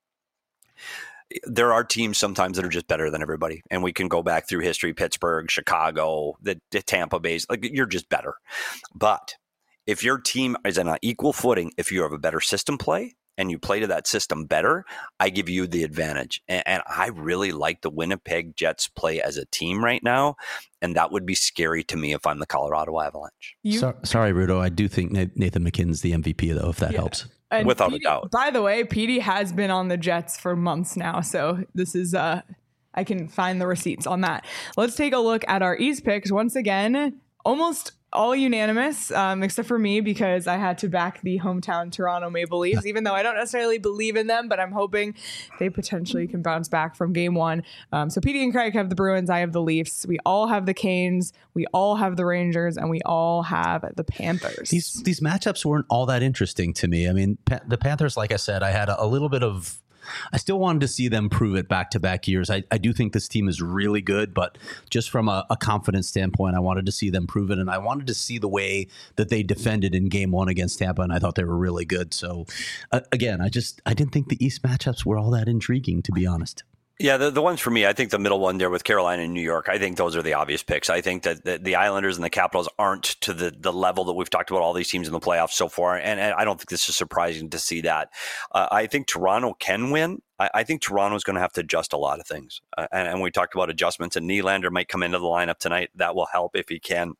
There are teams sometimes that are just better than everybody. And we can go back through history, Pittsburgh, Chicago, the Tampa Bay, like you're just better. But if your team is on an equal footing, if you have a better system play and you play to that system better, I give you the advantage. And I really like the Winnipeg Jets play as a team right now. And that would be scary to me if I'm the Colorado Avalanche. Sorry, Rudo. I do think Nathan McKinnon's the MVP, though, if that helps. And without a doubt. By the way, PD has been on the Jets for months now, so this is I can find the receipts on that. Let's take a look at our East picks. Once again, almost all unanimous, except for me, because I had to back the hometown Toronto Maple Leafs, even though I don't necessarily believe in them, but I'm hoping they potentially can bounce back from game 1. So PD and Craig have the Bruins, I have the Leafs. We all have the Canes, we all have the Rangers, and we all have the Panthers. These matchups weren't all that interesting to me. I mean, the Panthers, like I said, I had a little bit of... I still wanted to see them prove it back-to-back years. I do think this team is really good, but just from a confidence standpoint, I wanted to see them prove it, and I wanted to see the way that they defended in Game 1 against Tampa, and I thought they were really good. So, again, I didn't think the East matchups were all that intriguing, to be honest. Yeah, the ones for me, I think the middle one there with Carolina and New York, I think those are the obvious picks. I think that the Islanders and the Capitals aren't to the level that we've talked about all these teams in the playoffs so far, and I don't think this is surprising to see that. I think Toronto can win. I think Toronto's going to have to adjust a lot of things, and we talked about adjustments, and Nylander might come into the lineup tonight. That will help if he can.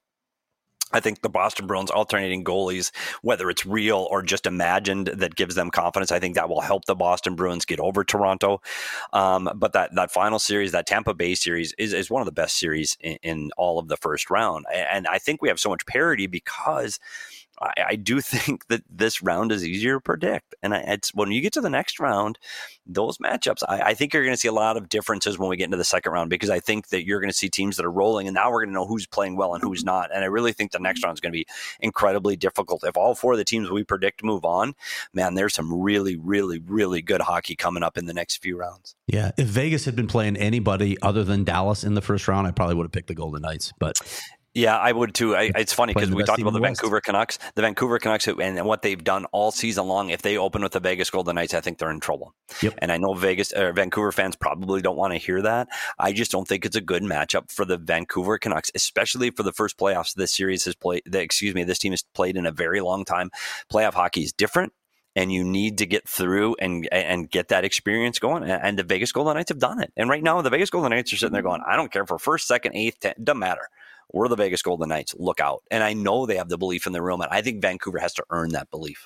I think the Boston Bruins alternating goalies, whether it's real or just imagined, that gives them confidence. I think that will help the Boston Bruins get over Toronto. But that final series, that Tampa Bay series, is one of the best series in all of the first round. And I think we have so much parity because I do think that this round is easier to predict. And it's when you get to the next round, those matchups, I think you're going to see a lot of differences when we get into the second round, because I think that you're going to see teams that are rolling, and now we're going to know who's playing well and who's not. And I really think the next round is going to be incredibly difficult. If all 4 of the teams we predict move on, man, there's some really, really, really good hockey coming up in the next few rounds. Yeah. If Vegas had been playing anybody other than Dallas in the first round, I probably would have picked the Golden Knights, but... Yeah, I would too. It's funny because we talked about the Vancouver Canucks. The Vancouver Canucks and what they've done all season long. If they open with the Vegas Golden Knights, I think they're in trouble. Yep. And I know Vancouver fans probably don't want to hear that. I just don't think it's a good matchup for the Vancouver Canucks, especially for the first playoffs this series has played. This team has played in a very long time. Playoff hockey is different, and you need to get through and get that experience going. And the Vegas Golden Knights have done it. And right now, the Vegas Golden Knights are sitting there going, I don't care for first, second, eighth, 10th, doesn't matter. We're the Vegas Golden Knights. Look out. And I know they have the belief in the room, and I think Vancouver has to earn that belief.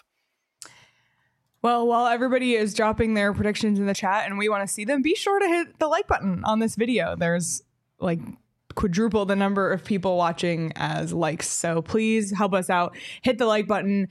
Well, while everybody is dropping their predictions in the chat and we want to see them, be sure to hit the like button on this video. There's like quadruple the number of people watching as likes. So please help us out. Hit the like button.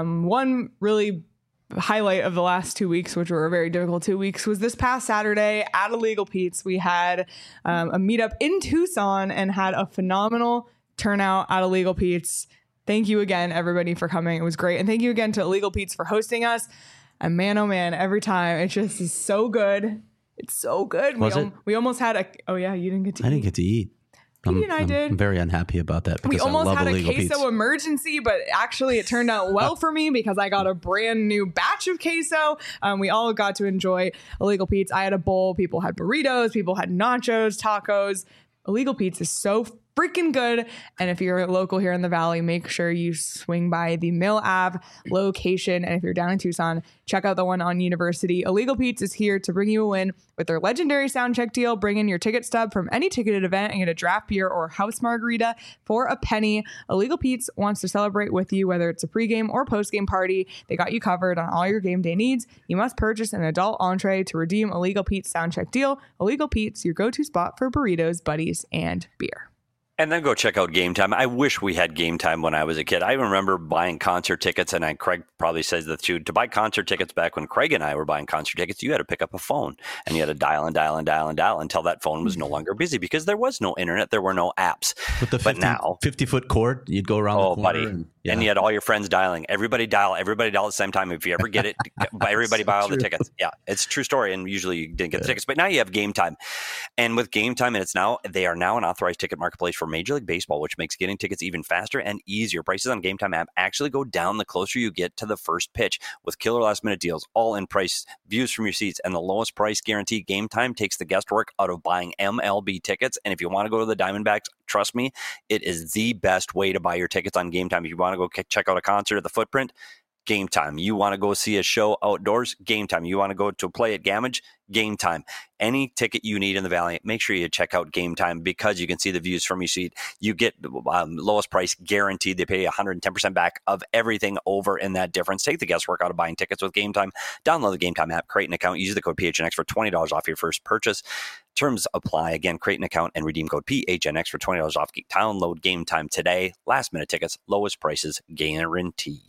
One really highlight of the last 2 weeks, which were a very difficult 2 weeks, was this past Saturday at Illegal Pete's. We had a meetup in Tucson and had a phenomenal turnout at Illegal Pete's. Thank you again, everybody, for coming. It was great. And thank you again to Illegal Pete's for hosting us. And man, oh man, every time it just is so good. It's so good. We almost had a... Oh yeah, you didn't get to eat. I didn't get to eat. Petey and I did. I'm very unhappy about that. We almost had a queso emergency, but actually it turned out well for me because I got a brand new batch of queso. We all got to enjoy Illegal Pete's. I had a bowl. People had burritos. People had nachos, tacos. Illegal Pete's is so freaking good. And if you're local here in the Valley, make sure you swing by the Mill Ave location. And if you're down in Tucson, check out the one on University. Illegal Pete's is here to bring you a win with their legendary sound check deal. Bring in your ticket stub from any ticketed event and get a draft beer or house margarita for a penny. Illegal Pete's wants to celebrate with you, whether it's a pregame or postgame party. They got you covered on all your game day needs. You must purchase an adult entree to redeem Illegal Pete's sound check deal. Illegal Pete's, your go-to spot for burritos, buddies, and beer. And then go check out Game Time. I wish we had Game Time when I was a kid. I remember buying concert tickets, and Craig probably says that too. To buy concert tickets back when Craig and I were buying concert tickets, you had to pick up a phone, and you had to dial and dial and dial and dial until that phone was no longer busy because there was no internet. There were no apps. But now 50-foot cord, you'd go around the corner. Buddy. And you had all your friends dialing. Everybody dial at the same time. If you ever get it, everybody buy all the tickets. Yeah, it's a true story. And usually you didn't get the tickets. But now you have Game Time. And with Game Time, they are now an authorized ticket marketplace for Major League Baseball, which makes getting tickets even faster and easier. Prices on Game Time app actually go down the closer you get to the first pitch with killer last minute deals, all in price, views from your seats, and the lowest price guarantee. Game Time takes the guesswork out of buying MLB tickets. And if you want to go to the Diamondbacks, trust me, it is the best way to buy your tickets on Game Time. If you want to go check out a concert at the Footprint, Game Time. You want to go see a show outdoors? Game Time. You want to go to play at Gamage? Game Time. Any ticket you need in the Valley, make sure you check out Game Time because you can see the views from your seat. You get lowest price guaranteed. They pay 110% back of everything over in that difference. Take the guesswork out of buying tickets with Game Time. Download the Game Time app, create an account, use the code PHNX for $20 off your first purchase. Terms apply. Again, create an account and redeem code PHNX for $20 off. Download Game Time today. Last minute tickets, lowest prices guaranteed.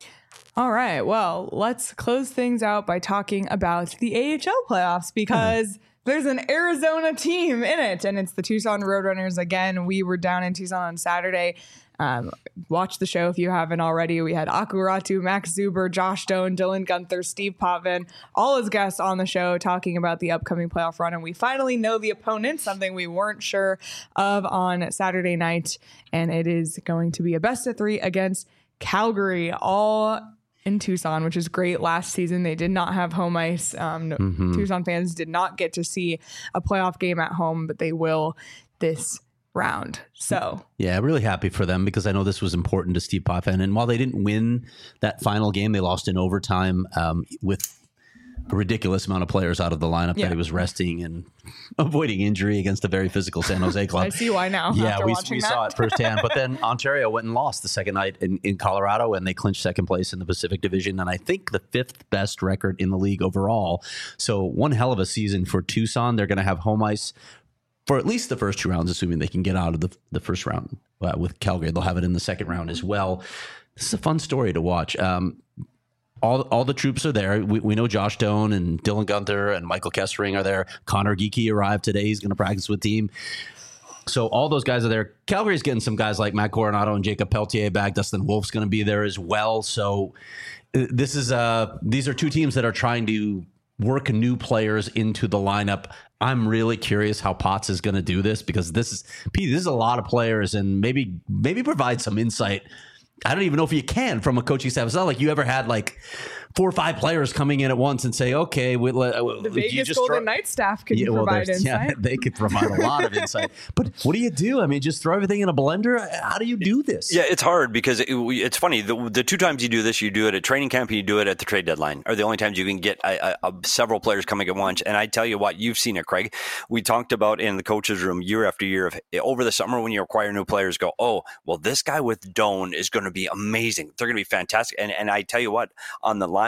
All right. Well, let's close things out by talking about the AHL playoffs because there's an Arizona team in it, and it's the Tucson Roadrunners. Again, we were down in Tucson on Saturday. Watch the show if you haven't already. We had Aku Ratu, Max Zuber, Josh Doan, Dylan Gunther, Steve Potvin, all as guests on the show talking about the upcoming playoff run. And we finally know the opponent, something we weren't sure of on Saturday night. And it is going to be a best of three against Calgary, all in Tucson, which is great. Last season, they did not have home ice. Tucson fans did not get to see a playoff game at home, but they will this round. So yeah, really happy for them because I know this was important to Steve Potvin. And while they didn't win that final game, they lost in overtime with a ridiculous amount of players out of the lineup that he was resting and avoiding injury against a very physical San Jose club. I see why now. Yeah, we saw it firsthand. But then Ontario went and lost the second night in Colorado, and they clinched second place in the Pacific Division, and I think the fifth best record in the league overall. So one hell of a season for Tucson. They're going to have home ice for at least the first two rounds, assuming they can get out of the first round with Calgary. They'll have it in the second round as well. This is a fun story to watch. All the troops are there. We know Josh Doan and Dylan Gunther and Michael Kessering are there. Connor Geekie arrived today. He's going to practice with team. So all those guys are there. Calgary's getting some guys like Matt Coronado and Jacob Pelletier back. Dustin Wolf's going to be there as well. So these are two teams that are trying to work new players into the lineup. I'm really curious how Potts is going to do this because this is a lot of players and maybe provide some insight. I don't even know if you can from a coaching staff. It's not like you ever had like 4 or 5 players coming in at once and say, okay, the Vegas Golden Knights staff could provide insight. Yeah, they could provide a lot of insight. But what do you do? I mean, just throw everything in a blender? How do you do this? Yeah, it's hard because it's funny. The 2 times you do this, you do it at training camp and you do it at the trade deadline are the only times you can get several players coming at once. And I tell you what, you've seen it, Craig. We talked about in the coaches room year after year over the summer when you acquire new players, go, oh, well, this guy with Doan is going to be amazing. They're going to be fantastic. And I tell you what, on the line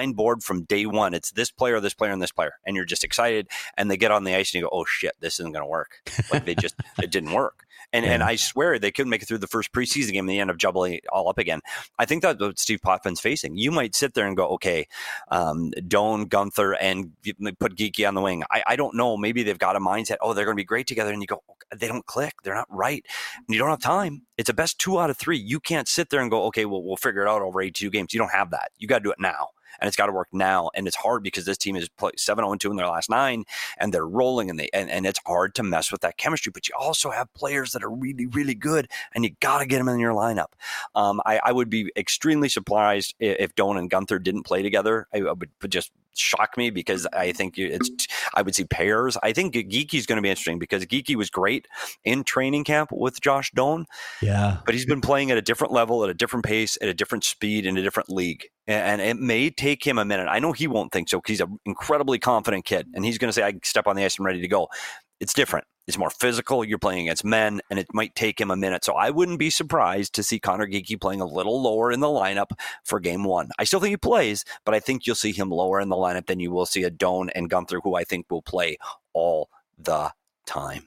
design board from day one. It's this player, and this player, and you're just excited. And they get on the ice and you go, oh shit, this isn't going to work. Like it didn't work. And I swear they couldn't make it through the first preseason game and they end up jubbling it all up again. I think that's what Steve Potvin's facing. You might sit there and go, okay, Doan, Gunther, and put Geekie on the wing. I don't know. Maybe they've got a mindset, oh, they're going to be great together. And you go, they don't click. They're not right. And you don't have time. It's a best 2 out of 3. You can't sit there and go, okay, well, we'll figure it out over 82 games. You don't have that. You got to do it now. And it's got to work now. And it's hard because this team is 7-0-2 in their last 9, and they're rolling, and it's hard to mess with that chemistry. But you also have players that are really, really good, and you got to get them in your lineup. I would be extremely surprised if Doan and Gunther didn't play together. It would just shock me because I think I would see pairs. I think Geekie's going to be interesting because Geekie was great in training camp with Josh Doan. Yeah. But he's been playing at a different level, at a different pace, at a different speed, in a different league. And it may take him a minute. I know he won't think so because he's an incredibly confident kid. And he's going to say, I can step on the ice and ready to go. It's different. It's more physical. You're playing against men, and it might take him a minute. So I wouldn't be surprised to see Connor Geekie playing a little lower in the lineup for game 1. I still think he plays, but I think you'll see him lower in the lineup than you will see a Doan and Gunther, who I think will play all the time.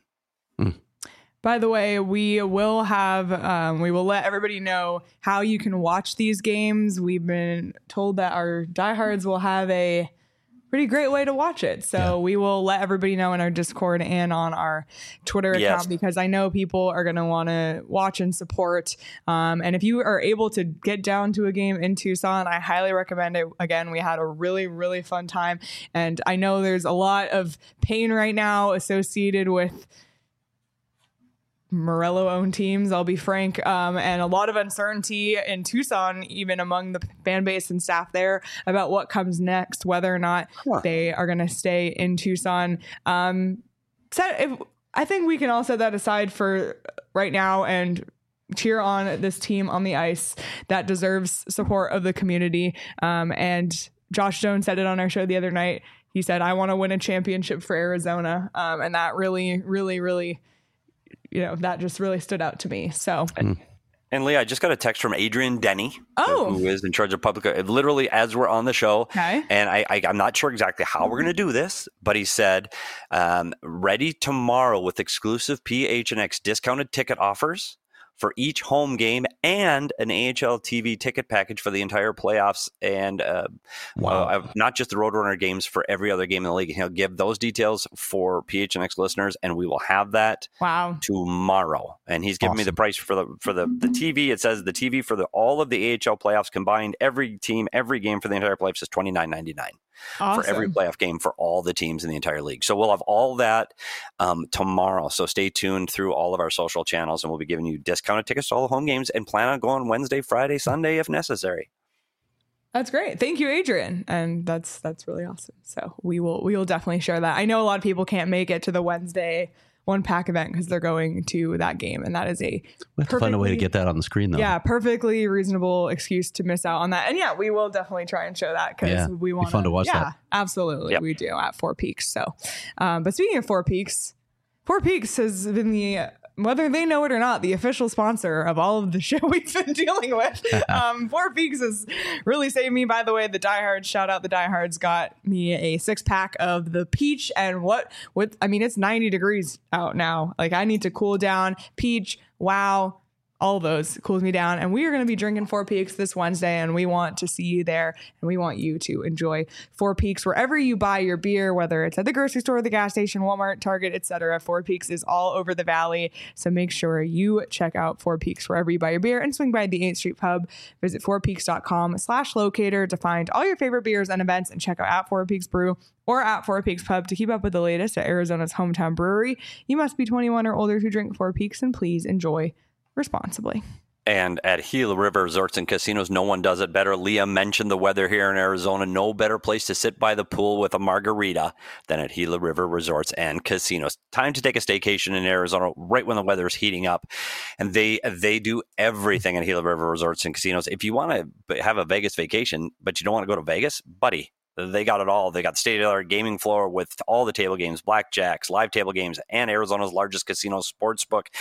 By the way, we will let everybody know how you can watch these games. We've been told that our diehards will have a pretty great way to watch it. So we will let everybody know in our Discord and on our Twitter account, because I know people are going to want to watch and support. And if you are able to get down to a game in Tucson, I highly recommend it. Again, we had a really, really fun time. And I know there's a lot of pain right now associated with Morello-owned teams, I'll be frank, and a lot of uncertainty in Tucson, even among the fan base and staff there, about what comes next, whether or not they are going to stay in Tucson. I think we can all set that aside for right now and cheer on this team on the ice that deserves support of the community. And Josh Jones said it on our show the other night. He said, I want to win a championship for Arizona. And that really, really, really, that just really stood out to me. So, and Leah, I just got a text from Adrian Denny, who is in charge of public, literally as we're on the show. Okay. And I'm not sure exactly how we're going to do this, but he said, ready tomorrow with exclusive PHNX discounted ticket offers for each home game and an AHL TV ticket package for the entire playoffs, and not just the Roadrunner games, for every other game in the league. He'll give those details for PHNX listeners, and we will have that tomorrow. And he's giving me the price for the TV. It says the TV for all of the AHL playoffs combined, every team, every game for the entire playoffs is $29.99. Awesome. For every playoff game for all the teams in the entire league. So we'll have all that tomorrow. So stay tuned through all of our social channels, and we'll be giving you discounted tickets to all the home games, and plan on going Wednesday, Friday, Sunday if necessary. That's great. Thank you, Adrian. And that's really awesome. So we will definitely share that. I know a lot of people can't make it to the Wednesday One Pack event because they're going to that game, and that is we have to find a way to get that on the screen, though. Yeah, perfectly reasonable excuse to miss out on that. And we will definitely try and show that because we want fun to watch that. Yeah, absolutely, we do at Four Peaks. So, but speaking of Four Peaks has been whether they know it or not, the official sponsor of all of the shit we've been dealing with. Four Peaks has really saved me. By the way, the diehards, shout out the diehards, got me a 6-pack of the peach. And it's 90 degrees out now. Like, I need to cool down. Peach, wow. All those cools me down. And we are going to be drinking Four Peaks this Wednesday, and we want to see you there, and we want you to enjoy Four Peaks wherever you buy your beer, whether it's at the grocery store, the gas station, Walmart, Target, etc. Four Peaks is all over the valley, so make sure you check out Four Peaks wherever you buy your beer, and swing by the 8th Street Pub. Visit fourpeaks.com/locator to find all your favorite beers and events, and check out at Four Peaks Brew or at Four Peaks Pub to keep up with the latest at Arizona's hometown brewery. You must be 21 or older to drink Four Peaks, and please enjoy responsibly. And at Gila River Resorts and Casinos, no one does it better. Leah mentioned the weather here in Arizona. No better place to sit by the pool with a margarita than at Gila River Resorts and Casinos. Time to take a staycation in Arizona right when the weather is heating up. And they do everything at Gila River Resorts and Casinos. If you want to have a Vegas vacation, but you don't want to go to Vegas, buddy, they got it all. They got state-of-the-art gaming floor with all the table games, blackjacks, live table games, and Arizona's largest casino sportsbook.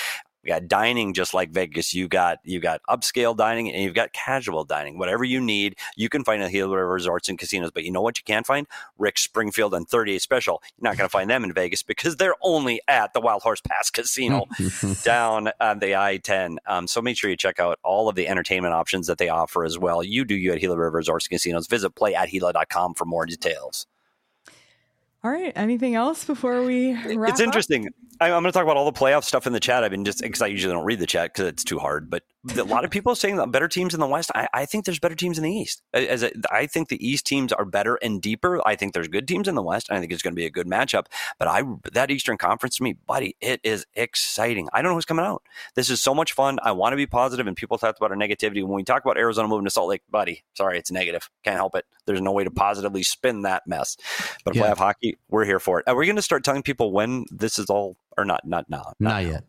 We got dining just like Vegas. You got upscale dining and you've got casual dining. Whatever you need, you can find at Gila River Resorts and Casinos. But you know what you can find? Rick Springfield and 38 Special. You're not going to find them in Vegas because they're only at the Wild Horse Pass Casino down on the I-10. So make sure you check out all of the entertainment options that they offer as well. You at Gila River Resorts and Casinos. Visit playatgila.com for more details. All right. Anything else before we wrap It's interesting. I'm going to talk about all the playoff stuff in the chat. I've been because I usually don't read the chat because it's too hard. But a lot of people are saying that better teams in the West. I think there's better teams in the East. I think the East teams are better and deeper. I think there's good teams in the West. I think it's going to be a good matchup. But that Eastern Conference to me, buddy, it is exciting. I don't know who's coming out. This is so much fun. I want to be positive, and people talk about our negativity. When we talk about Arizona moving to Salt Lake, buddy, sorry, it's negative. Can't help it. There's no way to positively spin that mess. But playoff hockey, we're here for it. Are we going to start telling people when this is all or not? Not yet.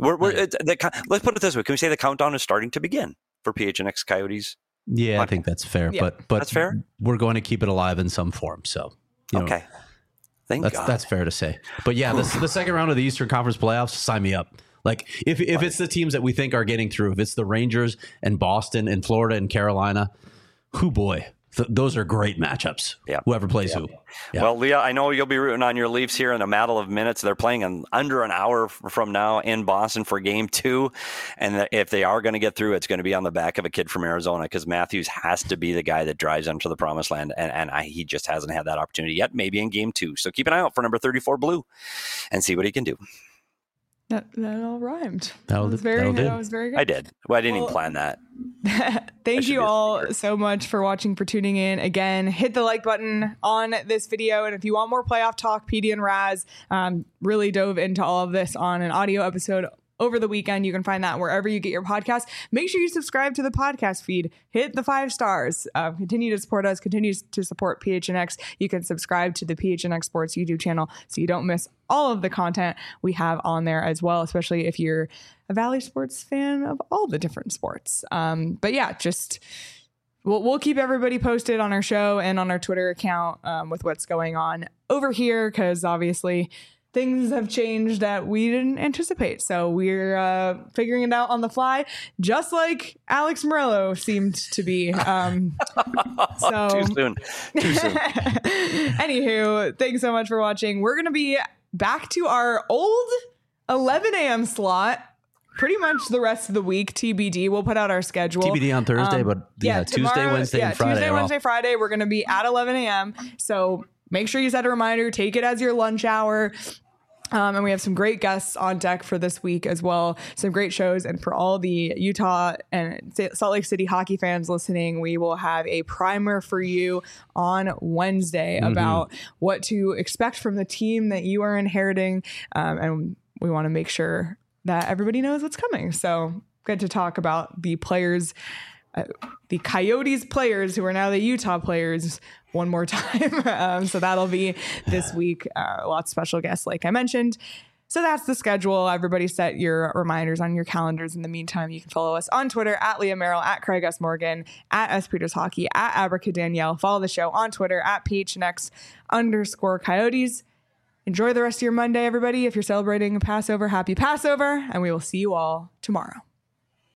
Let's put it this way. Can we say the countdown is starting to begin for PHNX Coyotes? Yeah, I think that's fair. Yeah. But that's fair. We're going to keep it alive in some form. So okay. Thank God. That's fair to say. But yeah, the second round of the Eastern Conference playoffs, sign me up. Like if it's the teams that we think are getting through, if it's the Rangers and Boston and Florida and Carolina, boy. Those are great matchups. Yeah. Whoever plays who. Yeah. Well, Leah, I know you'll be rooting on your Leafs here in a matter of minutes. They're playing in under an hour from now in Boston for Game 2. And if they are going to get through, it's going to be on the back of a kid from Arizona because Matthews has to be the guy that drives them to the promised land. And he just hasn't had that opportunity yet, maybe in Game 2. So keep an eye out for number 34 Blue and see what he can do. That all rhymed. That was very good. I did. Well, I didn't even plan that. Thank you all so much for watching, for tuning in. Again, hit the like button on this video. And if you want more playoff talk, PD and Raz really dove into all of this on an audio episode over the weekend. You can find that wherever you get your podcast. Make sure you subscribe to the podcast feed. Hit the 5 stars. Continue to support us. Continue to support PHNX. You can subscribe to the PHNX Sports YouTube channel so you don't miss all of the content we have on there as well, especially if you're a Valley Sports fan of all the different sports. But yeah, we'll keep everybody posted on our show and on our Twitter account with what's going on over here, because obviously things have changed that we didn't anticipate. So we're figuring it out on the fly, just like Alex Morello seemed to be. So Too soon. Anywho, thanks so much for watching. We're going to be back to our old 11 a.m. slot pretty much the rest of the week. TBD. We'll put out our schedule. TBD on Thursday, but Tuesday, Wednesday, and Friday. Tuesday, Wednesday, Friday, we're going to be at 11 a.m. So make sure you set a reminder. Take it as your lunch hour. And we have some great guests on deck for this week as well. Some great shows. And for all the Utah and Salt Lake City hockey fans listening, we will have a primer for you on Wednesday about what to expect from the team that you are inheriting. And we want to make sure that everybody knows what's coming. So good to talk about the players, the Coyotes players who are now the Utah players one more time. So that'll be this week. Lots of special guests, like I mentioned. So that's the schedule. Everybody set your reminders on your calendars. In the meantime, you can follow us on Twitter at Leah Merrill, at Craig S. Morgan, at S. Peters Hockey, at Abrica Danielle. Follow the show on Twitter at PHNX_Coyotes. Enjoy the rest of your Monday, everybody. If you're celebrating Passover, happy Passover, and we will see you all tomorrow.